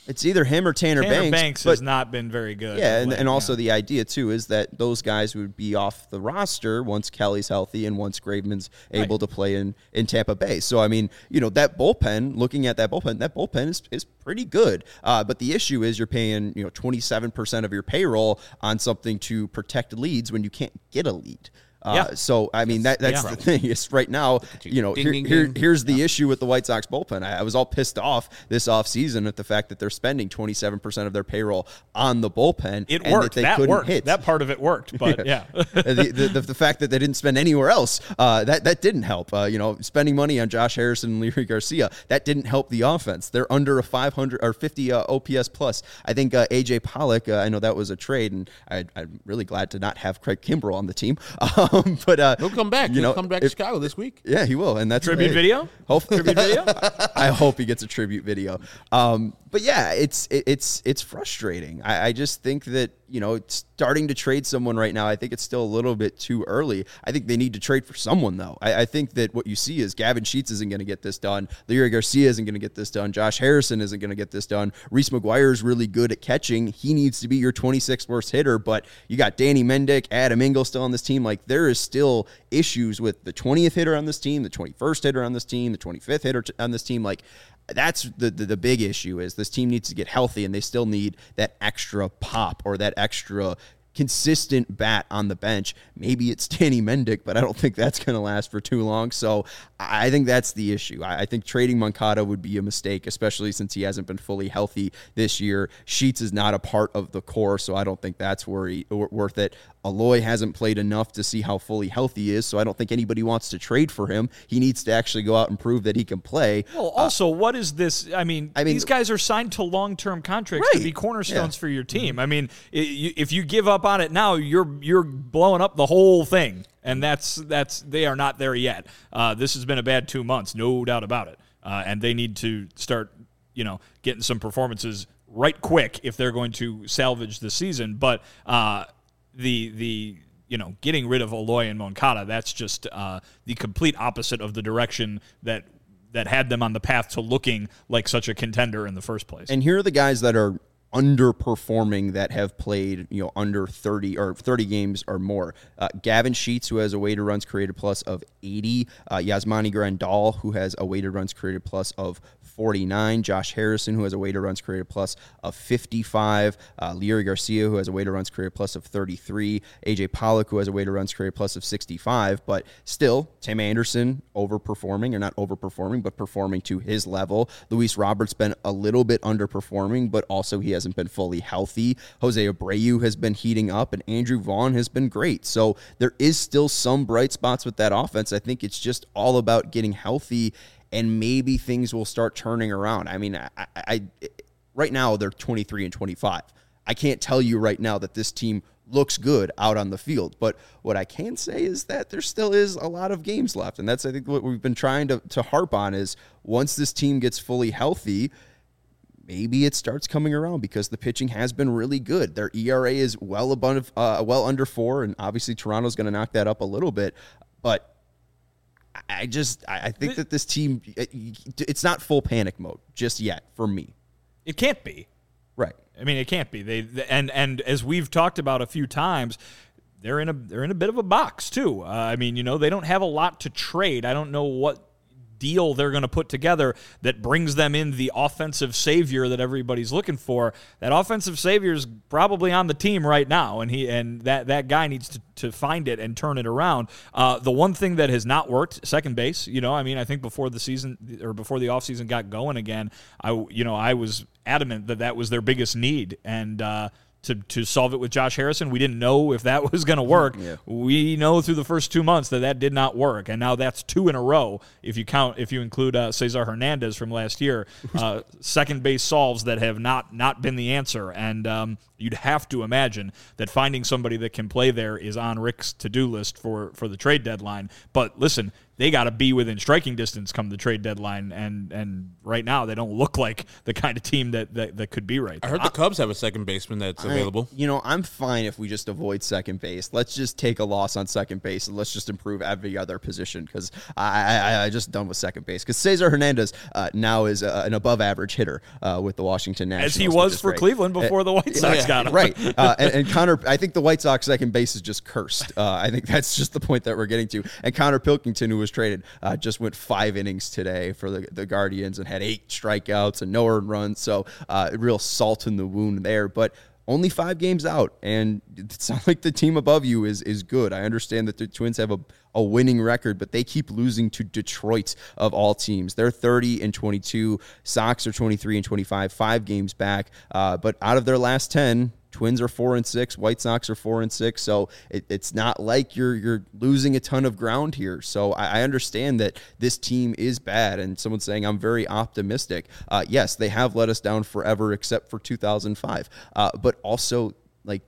It's either him or Tanner Banks. Has not been very good. Yeah, and also the idea, too, is that those guys would be off the roster once Kelly's healthy and once Graveman's able to play in Tampa Bay. So, I mean, that bullpen, looking at that bullpen is pretty good. But the issue is you're paying, 27% of your payroll on something to protect leads when you can't get a lead. So, I mean, that's the thing is right now, here's the issue with the White Sox bullpen. I was all pissed off this offseason at the fact that they're spending 27% of their payroll on the bullpen. It worked. That worked. Hit. That part of it worked, but the fact that they didn't spend anywhere else, that didn't help. Spending money on Josh Harrison and Leury Garcia, that didn't help the offense. They're under a 500 or 50 OPS plus. I think AJ Pollock, I know that was a trade, and I'm really glad to not have Craig Kimbrell on the team. But he'll come back. He'll come back to Chicago this week. Yeah, he will, and that's tribute video. Tribute video. I hope he gets a tribute video. But yeah, it's frustrating. I just think that starting to trade someone right now, I think it's still a little bit too early. I think they need to trade for someone though. I think that what you see is Gavin Sheets isn't going to get this done. Leury Garcia isn't going to get this done. Josh Harrison isn't going to get this done. Reese McGuire is really good at catching. He needs to be your 26th worst hitter. But you got Danny Mendick, Adam Engel still on this team. Like there is still issues with the 20th hitter on this team, the 21st hitter on this team, the 25th hitter on this team. Like that's the big issue is this team needs to get healthy and they still need that extra pop or that extra consistent bat on the bench. Maybe it's Danny Mendick, but I don't think that's going to last for too long. So I think that's the issue. I think trading Moncada would be a mistake, especially since he hasn't been fully healthy this year. Sheets is not a part of the core, so I don't think that's worth it. Aloy hasn't played enough to see how fully healthy he is, so I don't think anybody wants to trade for him. He needs to actually go out and prove that he can play. Well, also, what is this? I mean, these guys are signed to long-term contracts to be cornerstones for your team. I mean, if you give up on it now, you're blowing up the whole thing, and that's they are not there yet. This has been a bad 2 months, no doubt about it, and they need to start, getting some performances right quick if they're going to salvage the season. But the getting rid of Aloy and Moncada, that's just the complete opposite of the direction that had them on the path to looking like such a contender in the first place. And here are the guys that are underperforming that have played under 30 or 30 games or more. Gavin Sheets, who has a weighted runs created plus of 80. Yasmani Grandal, who has a weighted runs created plus of 49. Josh Harrison, who has a weighted runs created plus of 55. Leury Garcia, who has a weighted runs created plus of 33. AJ Pollock, who has a weighted runs created plus of 65. But still, Tim Anderson overperforming, or not overperforming, but performing to his level. Luis Roberts been a little bit underperforming, but also he hasn't been fully healthy. Jose Abreu has been heating up, and Andrew Vaughn has been great. So there is still some bright spots with that offense. I think it's just all about getting healthy, and maybe things will start turning around. I mean, I right now they're 23 and 25. I can't tell you right now that this team looks good out on the field, but what I can say is that there still is a lot of games left, and that's, I think, what we've been trying to harp on is once this team gets fully healthy, maybe it starts coming around because the pitching has been really good. Their ERA is well under 4, and obviously Toronto's going to knock that up a little bit, but I think that this team, it's not full panic mode just yet for me. It can't be. Right. I mean, it can't be. And as we've talked about a few times, they're in a bit of a box too. I mean, they don't have a lot to trade. I don't know what deal they're going to put together that brings them in the offensive savior that everybody's looking for. That offensive savior is probably on the team right now, and that guy needs to find it and turn it around. The one thing that has not worked, second base. I think before the season or before the offseason got going again, I was adamant that was their biggest need, and to solve it with Josh Harrison. We didn't know if that was going to work. Yeah. We know through the first 2 months that did not work, and now that's 2 in a row if you include Cesar Hernandez from last year. Second base solves that have not been the answer, and you'd have to imagine that finding somebody that can play there is on Rick's to-do list for the trade deadline. But listen, they got to be within striking distance come the trade deadline, and right now they don't look like the kind of team that could be right I there. heard the Cubs have a second baseman that's available. I'm fine if we just avoid second base. Let's just take a loss on second base and let's just improve every other position because I just done with second base. Because Cesar Hernandez now is an above-average hitter with the Washington Nationals. As he was for Cleveland before the White Sox got him. Right. And Connor, I think the White Sox second base is just cursed. I think that's just the point that we're getting to. And Connor Pilkington, who was traded, just went 5 innings today for the Guardians and had 8 strikeouts and no earned runs. So real salt in the wound there. But only 5 games out, and it's not like the team above you is good. I understand that the Twins have a winning record, but they keep losing to Detroit of all teams. They're 30-22. Sox are 23-25, 5 games back. But out of their last 10, Twins are 4-6. White Sox are 4-6. So it's not like you're losing a ton of ground here. So I understand that this team is bad, and someone's saying I'm very optimistic. Yes, they have let us down forever, except for 2005. But also, like,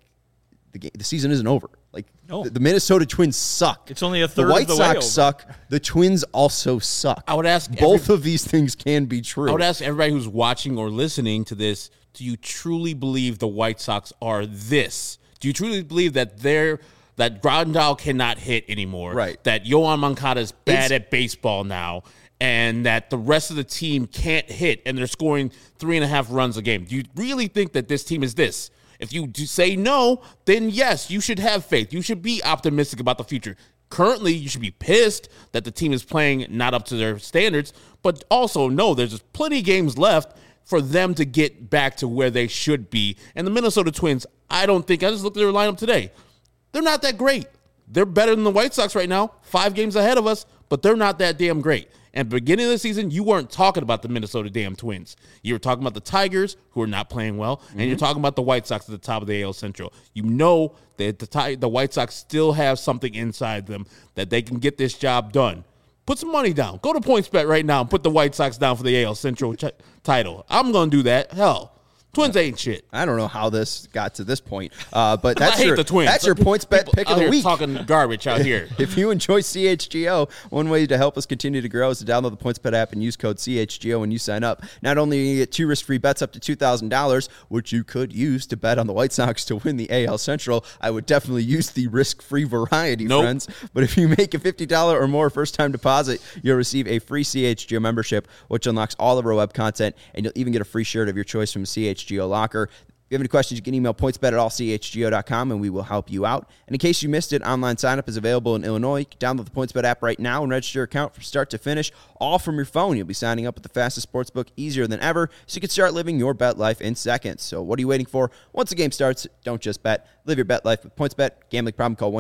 the season isn't over. Like, No. the Minnesota Twins suck. It's only a third The White of the way Sox over. suck. The Twins also suck. I would ask both of these things can be true. I would ask everybody who's watching or listening to this, do you truly believe the White Sox are this? Do you truly believe that that Grandal cannot hit anymore? Right. That Yoan Moncada is bad at baseball now, and that the rest of the team can't hit, and they're scoring 3.5 runs a game? Do you really think that this team is this? If you do say no, then yes, you should have faith. You should be optimistic about the future. Currently, you should be pissed that the team is playing not up to their standards, but also know there's plenty of games left for them to get back to where they should be. And the Minnesota Twins, I just looked at their lineup today. They're not that great. They're better than the White Sox right now, 5 games ahead of us, but they're not that damn great. And beginning of the season, you weren't talking about the Minnesota damn Twins. You were talking about the Tigers, who are not playing well, and you're talking about the White Sox at the top of the AL Central. You know that the White Sox still have something inside them that they can get this job done. Put some money down. Go to PointsBet right now and put the White Sox down for the AL Central title. I'm going to do that. Hell, Twins ain't shit. I don't know how this got to this point, but that's I hate the Twins. That's your PointsBet pick of the week. Talking garbage out here. If you enjoy CHGO, one way to help us continue to grow is to download the PointsBet app and use code CHGO when you sign up. Not only do you get 2 risk-free bets up to $2,000, which you could use to bet on the White Sox to win the AL Central, I would definitely use the risk-free variety, friends. But if you make a $50 or more first-time deposit, you'll receive a free CHGO membership, which unlocks all of our web content, and you'll even get a free shirt of your choice from CHGO Locker. If you have any questions, you can email pointsbet@allchgo.com and we will help you out. And in case you missed it, online sign-up is available in Illinois. You can download the PointsBet app right now and register your account from start to finish, all from your phone. You'll be signing up with the fastest sportsbook easier than ever, so you can start living your bet life in seconds. So what are you waiting for? Once the game starts, don't just bet. Live your bet life with PointsBet. Gambling problem, call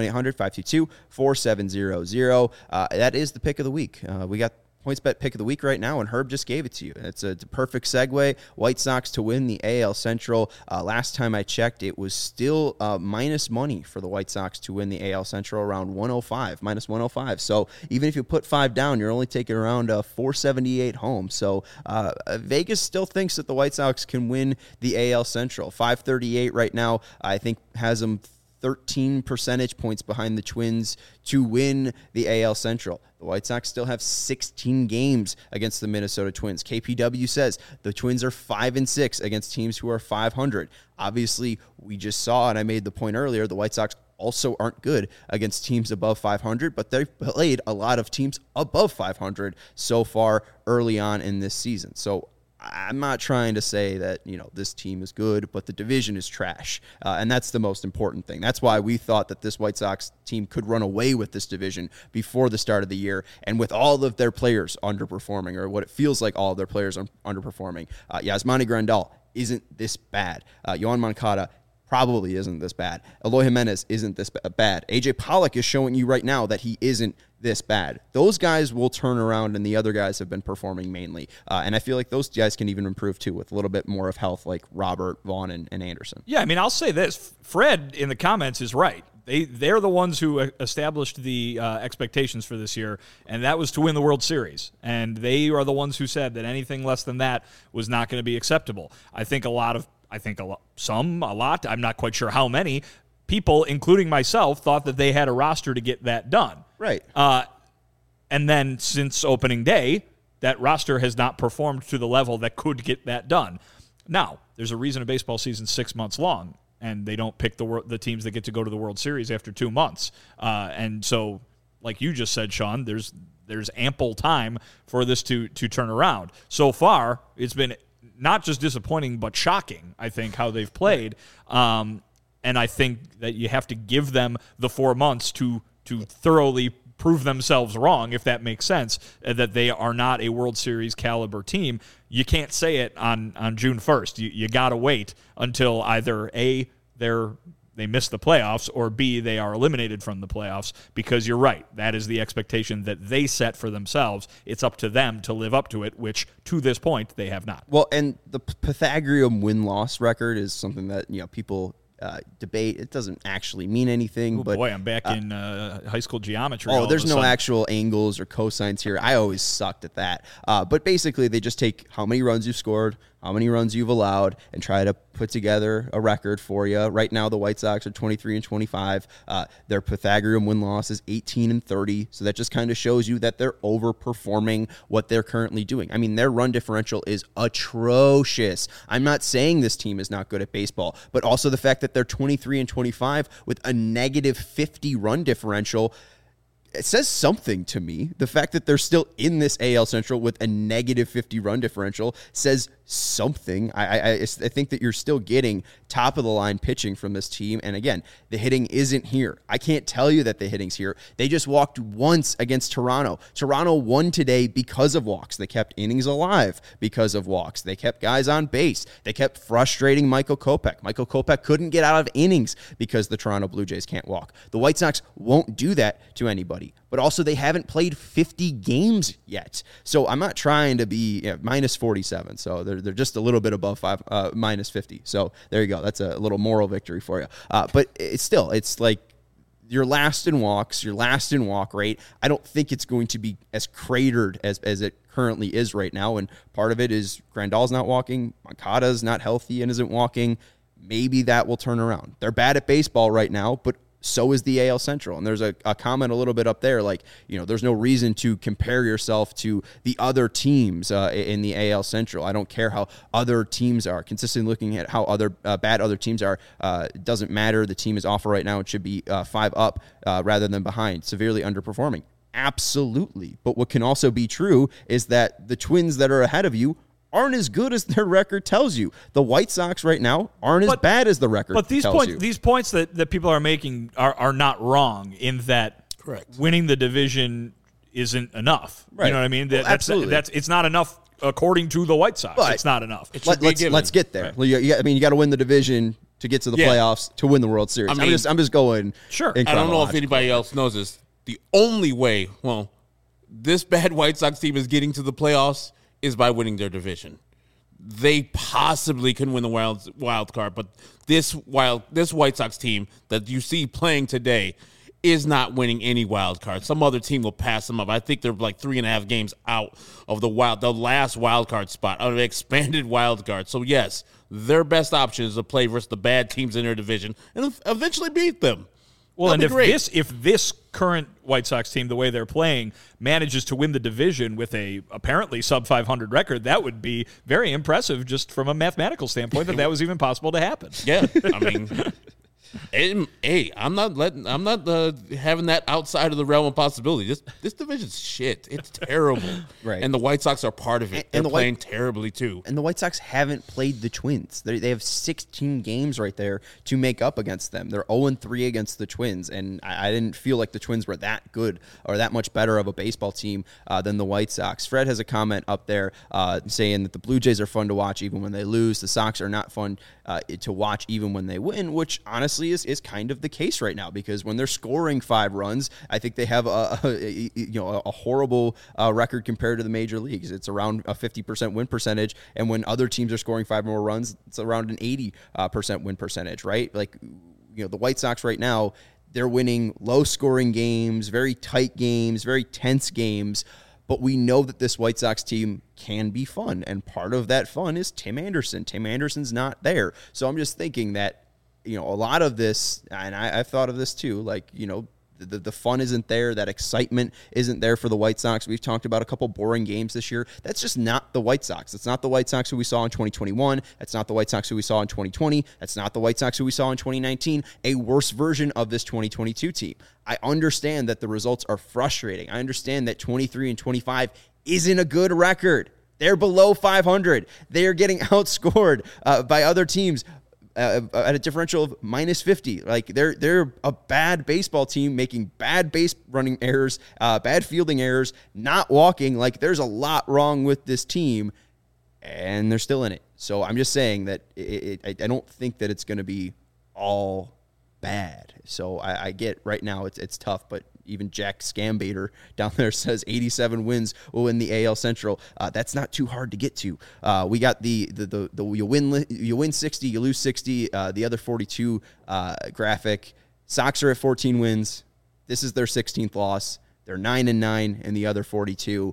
1-800-522-4700. That is the pick of the week. We got PointsBet pick of the week right now, and Herb just gave it to you. It's a perfect segue. White Sox to win the AL Central. Last time I checked, it was still minus money for the White Sox to win the AL Central, around 105, minus 105. So even if you put 5 down, you're only taking around 478 home. So Vegas still thinks that the White Sox can win the AL Central. 538 right now, I think, has them 13 percentage points behind the Twins to win the AL Central. The White Sox still have 16 games against the Minnesota Twins. KPW says the Twins are 5-6 against teams who are 500. Obviously, we just saw, and I made the point earlier, the White Sox also aren't good against teams above 500, but they've played a lot of teams above 500 so far early on in this season. So I'm not trying to say that, this team is good, but the division is trash. And that's the most important thing. That's why we thought that this White Sox team could run away with this division before the start of the year. And with all of their players underperforming, or what it feels like all of their players are underperforming, Yasmani Grandal isn't this bad. Yoan Moncada probably isn't this bad. Eloy Jimenez isn't this bad. AJ Pollock is showing you right now that he isn't this bad. Those guys will turn around, and the other guys have been performing mainly. And I feel like those guys can even improve too with a little bit more of health, like Robert, Vaughn, and Anderson. Yeah, I mean, I'll say this. Fred in the comments is right. They're the ones who established the expectations for this year, and that was to win the World Series. And they are the ones who said that anything less than that was not going to be acceptable. I think a lot, I'm not quite sure how many people, including myself, thought that they had a roster to get that done. Right. And then since opening day, that roster has not performed to the level that could get that done. Now, there's a reason a baseball season's 6 months long, and they don't pick the teams that get to go to the World Series after 2 months. And so, like you just said, Sean, there's ample time for this to turn around. So far, it's been not just disappointing, but shocking, I think, how they've played. And I think that you have to give them the 4 months to thoroughly prove themselves wrong, if that makes sense, that they are not a World Series caliber team. You can't say it on June 1st. You got to wait until either A, they miss the playoffs, or B, they are eliminated from the playoffs, because you're right. That is the expectation that they set for themselves. It's up to them to live up to it, which to this point they have not. Well, and the Pythagorean win-loss record is something that people debate. It doesn't actually mean anything. But boy, I'm back in high school geometry. Oh, there's no actual angles or cosines here. I always sucked at that. But basically, they just take how many runs you've scored, how many runs you've allowed, and try to put together a record for you. Right now, the White Sox are 23-25. Their Pythagorean win-loss is 18-30. So that just kind of shows you that they're overperforming what they're currently doing. I mean, their run differential is atrocious. I'm not saying this team is not good at baseball, but also the fact that they're 23-25 with a negative 50 run differential, it says something to me. The fact that they're still in this AL Central with a negative 50 run differential says something. I think that you're still getting top of the line pitching from this team. And again, the hitting isn't here. I can't tell you that the hitting's here. They just walked once against Toronto. Toronto won today because of walks. They kept innings alive because of walks. They kept guys on base. They kept frustrating Michael Kopech. Michael Kopech couldn't get out of innings because the Toronto Blue Jays can't walk. The White Sox won't do that to anybody. But also, they haven't played 50 games yet. So I'm not trying to be minus 47. So they're just a little bit above minus 50. So there you go. That's a little moral victory for you. But it's like you're last in walks, your last in walk rate. I don't think it's going to be as cratered as it currently is right now. And part of it is Grandal's not walking. Moncada's not healthy and isn't walking. Maybe that will turn around. They're bad at baseball right now, but so is the AL Central. And there's a comment a little bit up there, like, there's no reason to compare yourself to the other teams in the AL Central. I don't care how other teams are. Consistently looking at how other bad other teams are, it doesn't matter. The team is awful right now. It should be 5 up rather than behind, severely underperforming. Absolutely. But what can also be true is that the Twins that are ahead of you aren't as good as their record tells you. The White Sox right now aren't as bad as the record tells you. But these points that people are making are not wrong, in that correct, winning the division isn't enough. Right. You know what I mean? Absolutely. It's not enough according to the White Sox. But it's not enough. Let's get there. Right. You got to win the division to get to the playoffs to win the World Series. I'm just going. Sure. I don't know if anybody else knows this. The only way, this bad White Sox team is getting to the playoffs is by winning their division. They possibly can win the wild card, but this White Sox team that you see playing today is not winning any wild card. Some other team will pass them up. I think they're like 3.5 games out of the last wild card spot, out of the expanded wild card. So yes, their best option is to play versus the bad teams in their division and eventually beat them. Well, and if this current White Sox team, the way they're playing, manages to win the division with a apparently sub-500 record, that would be very impressive just from a mathematical standpoint that was even possible to happen. Yeah, I mean, hey, I'm not having that outside of the realm of possibility. This division's shit. It's terrible. Right. And the White Sox are part of it. They're playing terribly too. And the White Sox haven't played the Twins. They have 16 games right there to make up against them. They're 0-3 against the Twins, and I didn't feel like the Twins were that good or that much better of a baseball team than the White Sox. Fred has a comment up there saying that the Blue Jays are fun to watch even when they lose. The Sox are not fun to watch even when they win, which honestly is kind of the case right now, because when they're scoring 5 runs, I think they have a horrible record compared to the major leagues. It's around a 50% win percentage, and when other teams are scoring 5 more runs, it's around an 80% win percentage, right? Like, the White Sox right now, they're winning low-scoring games, very tight games, very tense games. But we know that this White Sox team can be fun, and part of that fun is Tim Anderson. Tim Anderson's not there. So I'm just thinking that, a lot of this, and I've thought of this too, like, The fun isn't there. That excitement isn't there for the White Sox. We've talked about a couple boring games this year. That's just not the White Sox. It's not the White Sox who we saw in 2021. That's not the White Sox who we saw in 2020. That's not the White Sox who we saw in 2019. A worse version of this 2022 team. I understand that the results are frustrating. I understand that 23 and 25 isn't a good record. They're below 500. They're getting outscored by other teams at a differential of minus 50. Like they're a bad baseball team making bad base running errors, bad fielding errors, not walking. Like there's a lot wrong with this team, and they're still in it. So I'm just saying that I don't think that it's going to be all bad. So I get right now it's tough, but even Jack Scambaiter down there says 87 wins will win the AL Central. That's not too hard to get to. We got the you win 60, you lose 60. The other 42 graphic. Sox are at 14 wins. This is their 16th loss. They're 9-9 in the other 42.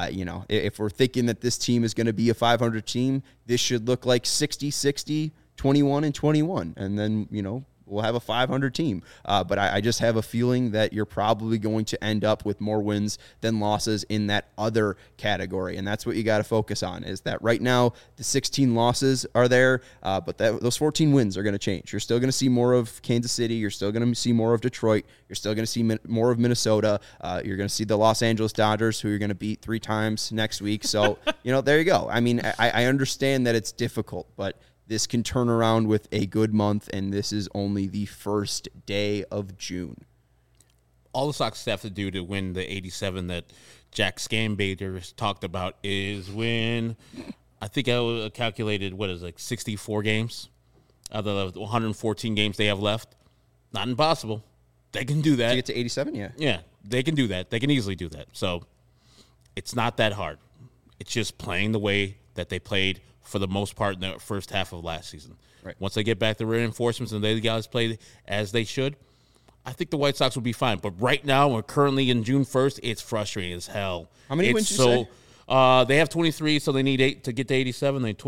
If we're thinking that this team is going to be a 500 team, this should look like 60-60, 21-21, and then we'll have a 500 team. But I just have a feeling that you're probably going to end up with more wins than losses in that other category. And that's what you got to focus on, is that right now the 16 losses are there, but those 14 wins are going to change. You're still going to see more of Kansas City. You're still going to see more of Detroit. You're still going to see more of Minnesota. You're going to see the Los Angeles Dodgers, who you're going to beat 3 times next week. So, there you go. I mean, I understand that it's difficult, but this can turn around with a good month, and this is only the first day of June. All the Sox have to do to win the 87 that Jack Scambaiter talked about is win, I think I calculated, 64 games out of the 114 games they have left. Not impossible. They can do that. To get to 87, yeah. Yeah, they can do that. They can easily do that. So it's not that hard. It's just playing the way that they played for the most part in the first half of last season. Right. Once they get back the reinforcements and the guys play as they should, I think the White Sox will be fine. But right now, we're currently in June 1st, it's frustrating as hell. How many wins did you say? They have 23, so they need 8 to get to 87. They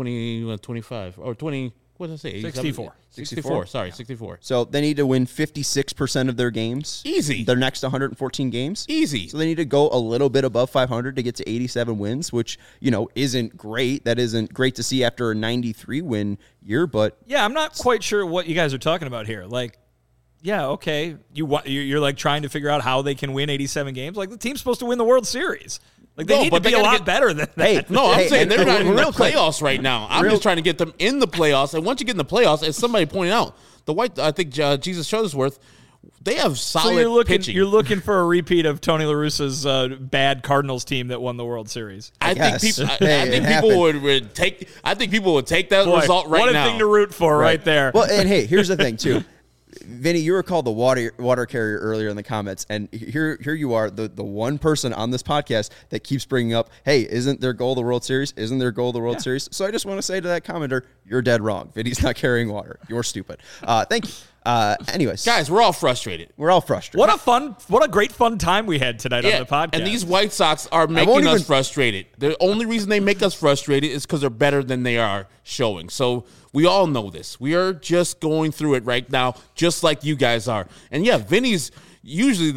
25 or 20. What did I say? 64. 64. Sorry, 64. So they need to win 56% of their games. Easy. Their next 114 games. Easy. So they need to go a little bit above 500 to get to 87 wins, which, isn't great. That isn't great to see after a 93 win year, but yeah, I'm not quite sure what you guys are talking about here. Like, yeah, okay. You're like trying to figure out how they can win 87 games. Like the team's supposed to win the World Series. Like they need to be a lot better than that. Hey, no, I'm saying they're not in the real quick. playoffs right now. I'm just trying to get them in the playoffs. And once you get in the playoffs, as somebody pointed out, I think Jesus Shuttlesworth, they have solid pitching. You're looking for a repeat of Tony La Russa's bad Cardinals team that won the World Series. I think people would take that result right now. What a thing to root for right there. Well, and hey, here's the thing too. Vinny, you were called the water carrier earlier in the comments, and here you are, the one person on this podcast that keeps bringing up, hey, isn't their goal the World Series? Isn't their goal the World Series? So I just want to say to that commenter, you're dead wrong. Vinny's not carrying water. You're stupid. Thank you. Anyways, guys, we're all frustrated. What a great fun time we had tonight on the podcast. And these White Sox are making us frustrated. The only reason they make us frustrated is because they're better than they are showing. So we all know this. We are just going through it right now, just like you guys are. And yeah, Vinny's usually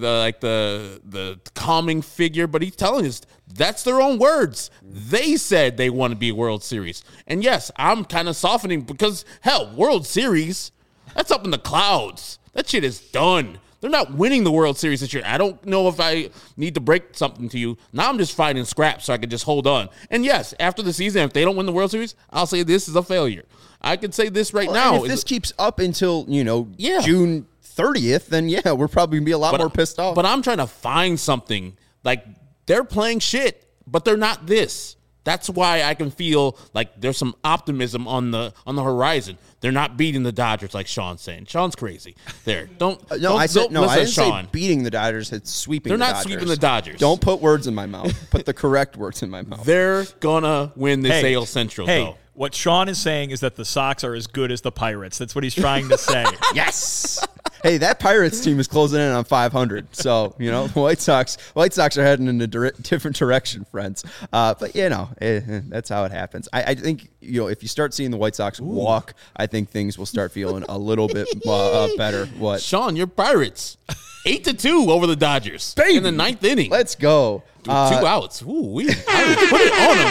the calming figure, but he's telling us that's their own words. They said they want to be a World Series. And yes, I'm kind of softening because, hell, World Series, that's up in the clouds. That shit is done. They're not winning the World Series this year. I don't know if I need to break something to you. Now I'm just fighting scraps so I can just hold on. And yes, after the season, if they don't win the World Series, I'll say this is a failure. I can say this right now. And if this keeps up until, June 30th, then yeah, we're probably going to be a lot more pissed off. But I'm trying to find something. Like, they're playing shit, but they're not this. That's why I can feel like there's some optimism on the horizon. They're not beating the Dodgers like Sean's saying. Sean's crazy. I didn't say beating the Dodgers. It's sweeping the Dodgers. They're not sweeping the Dodgers. Don't put words in my mouth. Put the correct words in my mouth. They're gonna win this AL Central, though. What Sean is saying is that the Sox are as good as the Pirates. That's what he's trying to say. Yes. Hey, that Pirates team is closing in on 500. So, the White Sox are heading in a different direction, friends. But, that's how it happens. I think, if you start seeing the White Sox walk, I think things will start feeling a little bit better. What? Sean, you're Pirates. 8-2 over the Dodgers in the 9th inning. Let's go. 2 outs. Ooh, I would put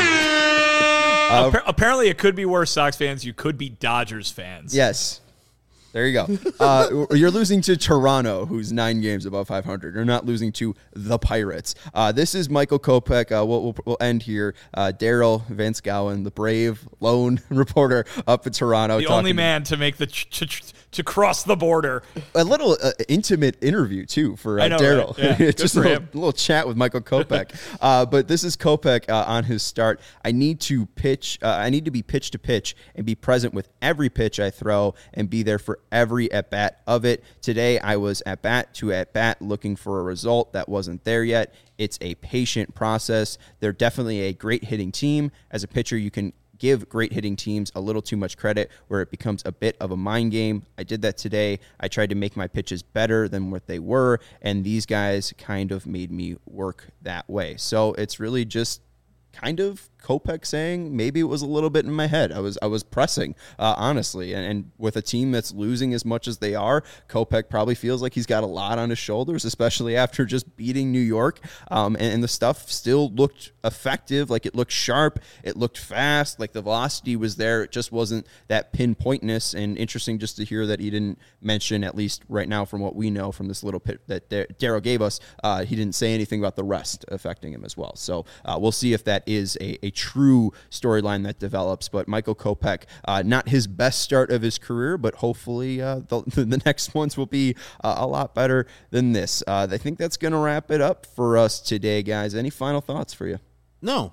it on them. Apparently, it could be worse, Sox fans. You could be Dodgers fans. Yes. There you go. You're losing to Toronto, who's 9 games above 500. You're not losing to the Pirates. This is Michael Kopech. We'll end here. Daryl Vance Gowan, the brave lone reporter up in Toronto. The only man to make the to cross the border. A little intimate interview, too, for Daryl. Right? Yeah, Just a little chat with Michael Kopech. But this is Kopech on his start. I need to pitch. I need to be pitch to pitch and be present with every pitch I throw and be there for every at-bat of it. Today, I was at-bat to at-bat looking for a result that wasn't there yet. It's a patient process. They're definitely a great hitting team. As a pitcher, you can give great hitting teams a little too much credit where it becomes a bit of a mind game. I did that today. I tried to make my pitches better than what they were, and these guys kind of made me work that way. So it's really just kind of Kopech saying maybe it was a little bit in my head. I was pressing, honestly. And with a team that's losing as much as they are, Kopech probably feels like he's got a lot on his shoulders, especially after just beating New York. And the stuff still looked effective. Like, it looked sharp. It looked fast. Like, the velocity was there. It just wasn't that pinpointness. And interesting just to hear that he didn't mention, at least right now from what we know from this little pit that Daryl gave us, he didn't say anything about the rest affecting him as well. So we'll see if that is a true storyline that develops. But Michael Kopech, not his best start of his career, but hopefully the next ones will be a lot better than this. I think that's going to wrap it up for us today, guys. Any final thoughts for you? No.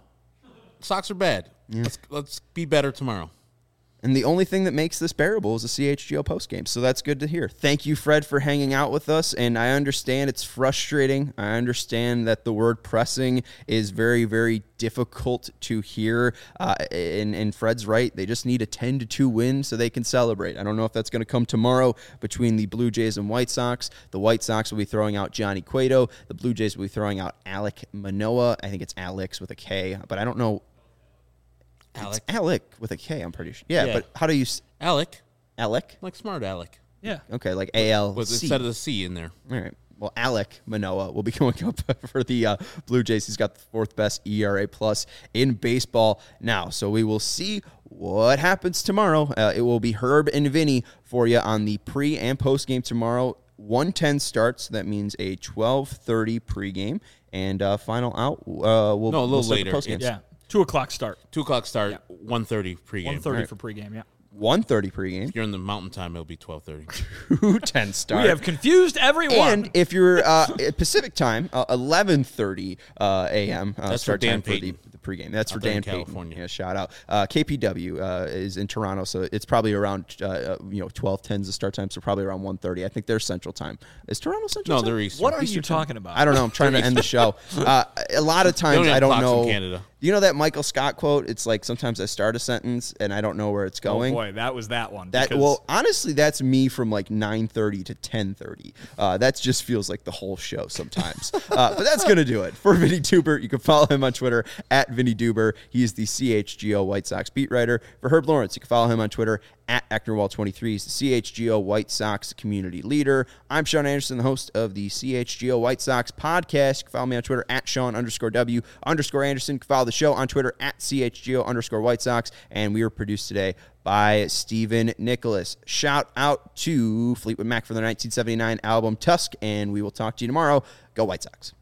Sox are bad. Yeah. Let's be better tomorrow. And the only thing that makes this bearable is the CHGO postgame. So that's good to hear. Thank you, Fred, for hanging out with us. And I understand it's frustrating. I understand that the word pressing is very, very difficult to hear. And Fred's right. They just need a 10-2 win so they can celebrate. I don't know if that's going to come tomorrow between the Blue Jays and White Sox. The White Sox will be throwing out Johnny Cueto. The Blue Jays will be throwing out Alek Manoah. I think it's Alex with a K, but I don't know. Alec. It's Alec with a K, I'm pretty sure. Yeah, but how do you... Alec. Alec? Like smart Alec. Yeah. Okay, like A-L-C. Instead of the C in there. All right. Well, Alek Manoah will be going up for the Blue Jays. He's got the 4th best ERA plus in baseball now. So we will see what happens tomorrow. It will be Herb and Vinny for you on the pre- and post-game tomorrow. 1:10 starts. That means a 12:30 pregame. And final out. A little later. Yeah. 2 o'clock start. 2 o'clock start, 1:30 pregame. 1:30 for pregame, yeah. 1:30 pregame. If you're in the mountain time, it'll be 12:30. 2:10 start. We have confused everyone. And if you're Pacific time, 11:30 a.m. That's start for Dan time for the pregame. That's out for there in Dan Payton. California. Yeah, shout out. KPW is in Toronto, so it's probably around 12:10 is the start time, so probably around 1:30. I think they're Central time. Is Toronto Central? No, time? they're Eastern. What are you talking about? I don't know. I'm trying to end the show. A lot of times I don't know. Canada. You know that Michael Scott quote? It's like sometimes I start a sentence and I don't know where it's going. Oh boy, that was that one. Well, honestly, that's me from like 9:30 to 10:30. That just feels like the whole show sometimes. But that's going to do it. For Vinny Duber, you can follow him on Twitter at Vinny Duber. He is the CHGO White Sox beat writer. For Herb Lawrence, you can follow him on Twitter at Ecknerwall23. He's the CHGO White Sox community leader. I'm Sean Anderson, the host of the CHGO White Sox podcast. You can follow me on Twitter at Sean_W_Anderson. You can follow the show on Twitter at CHGO_White Sox. And we were produced today by Stephen Nicholas. Shout out to Fleetwood Mac for their 1979 album Tusk, and we will talk to you tomorrow. Go White Sox.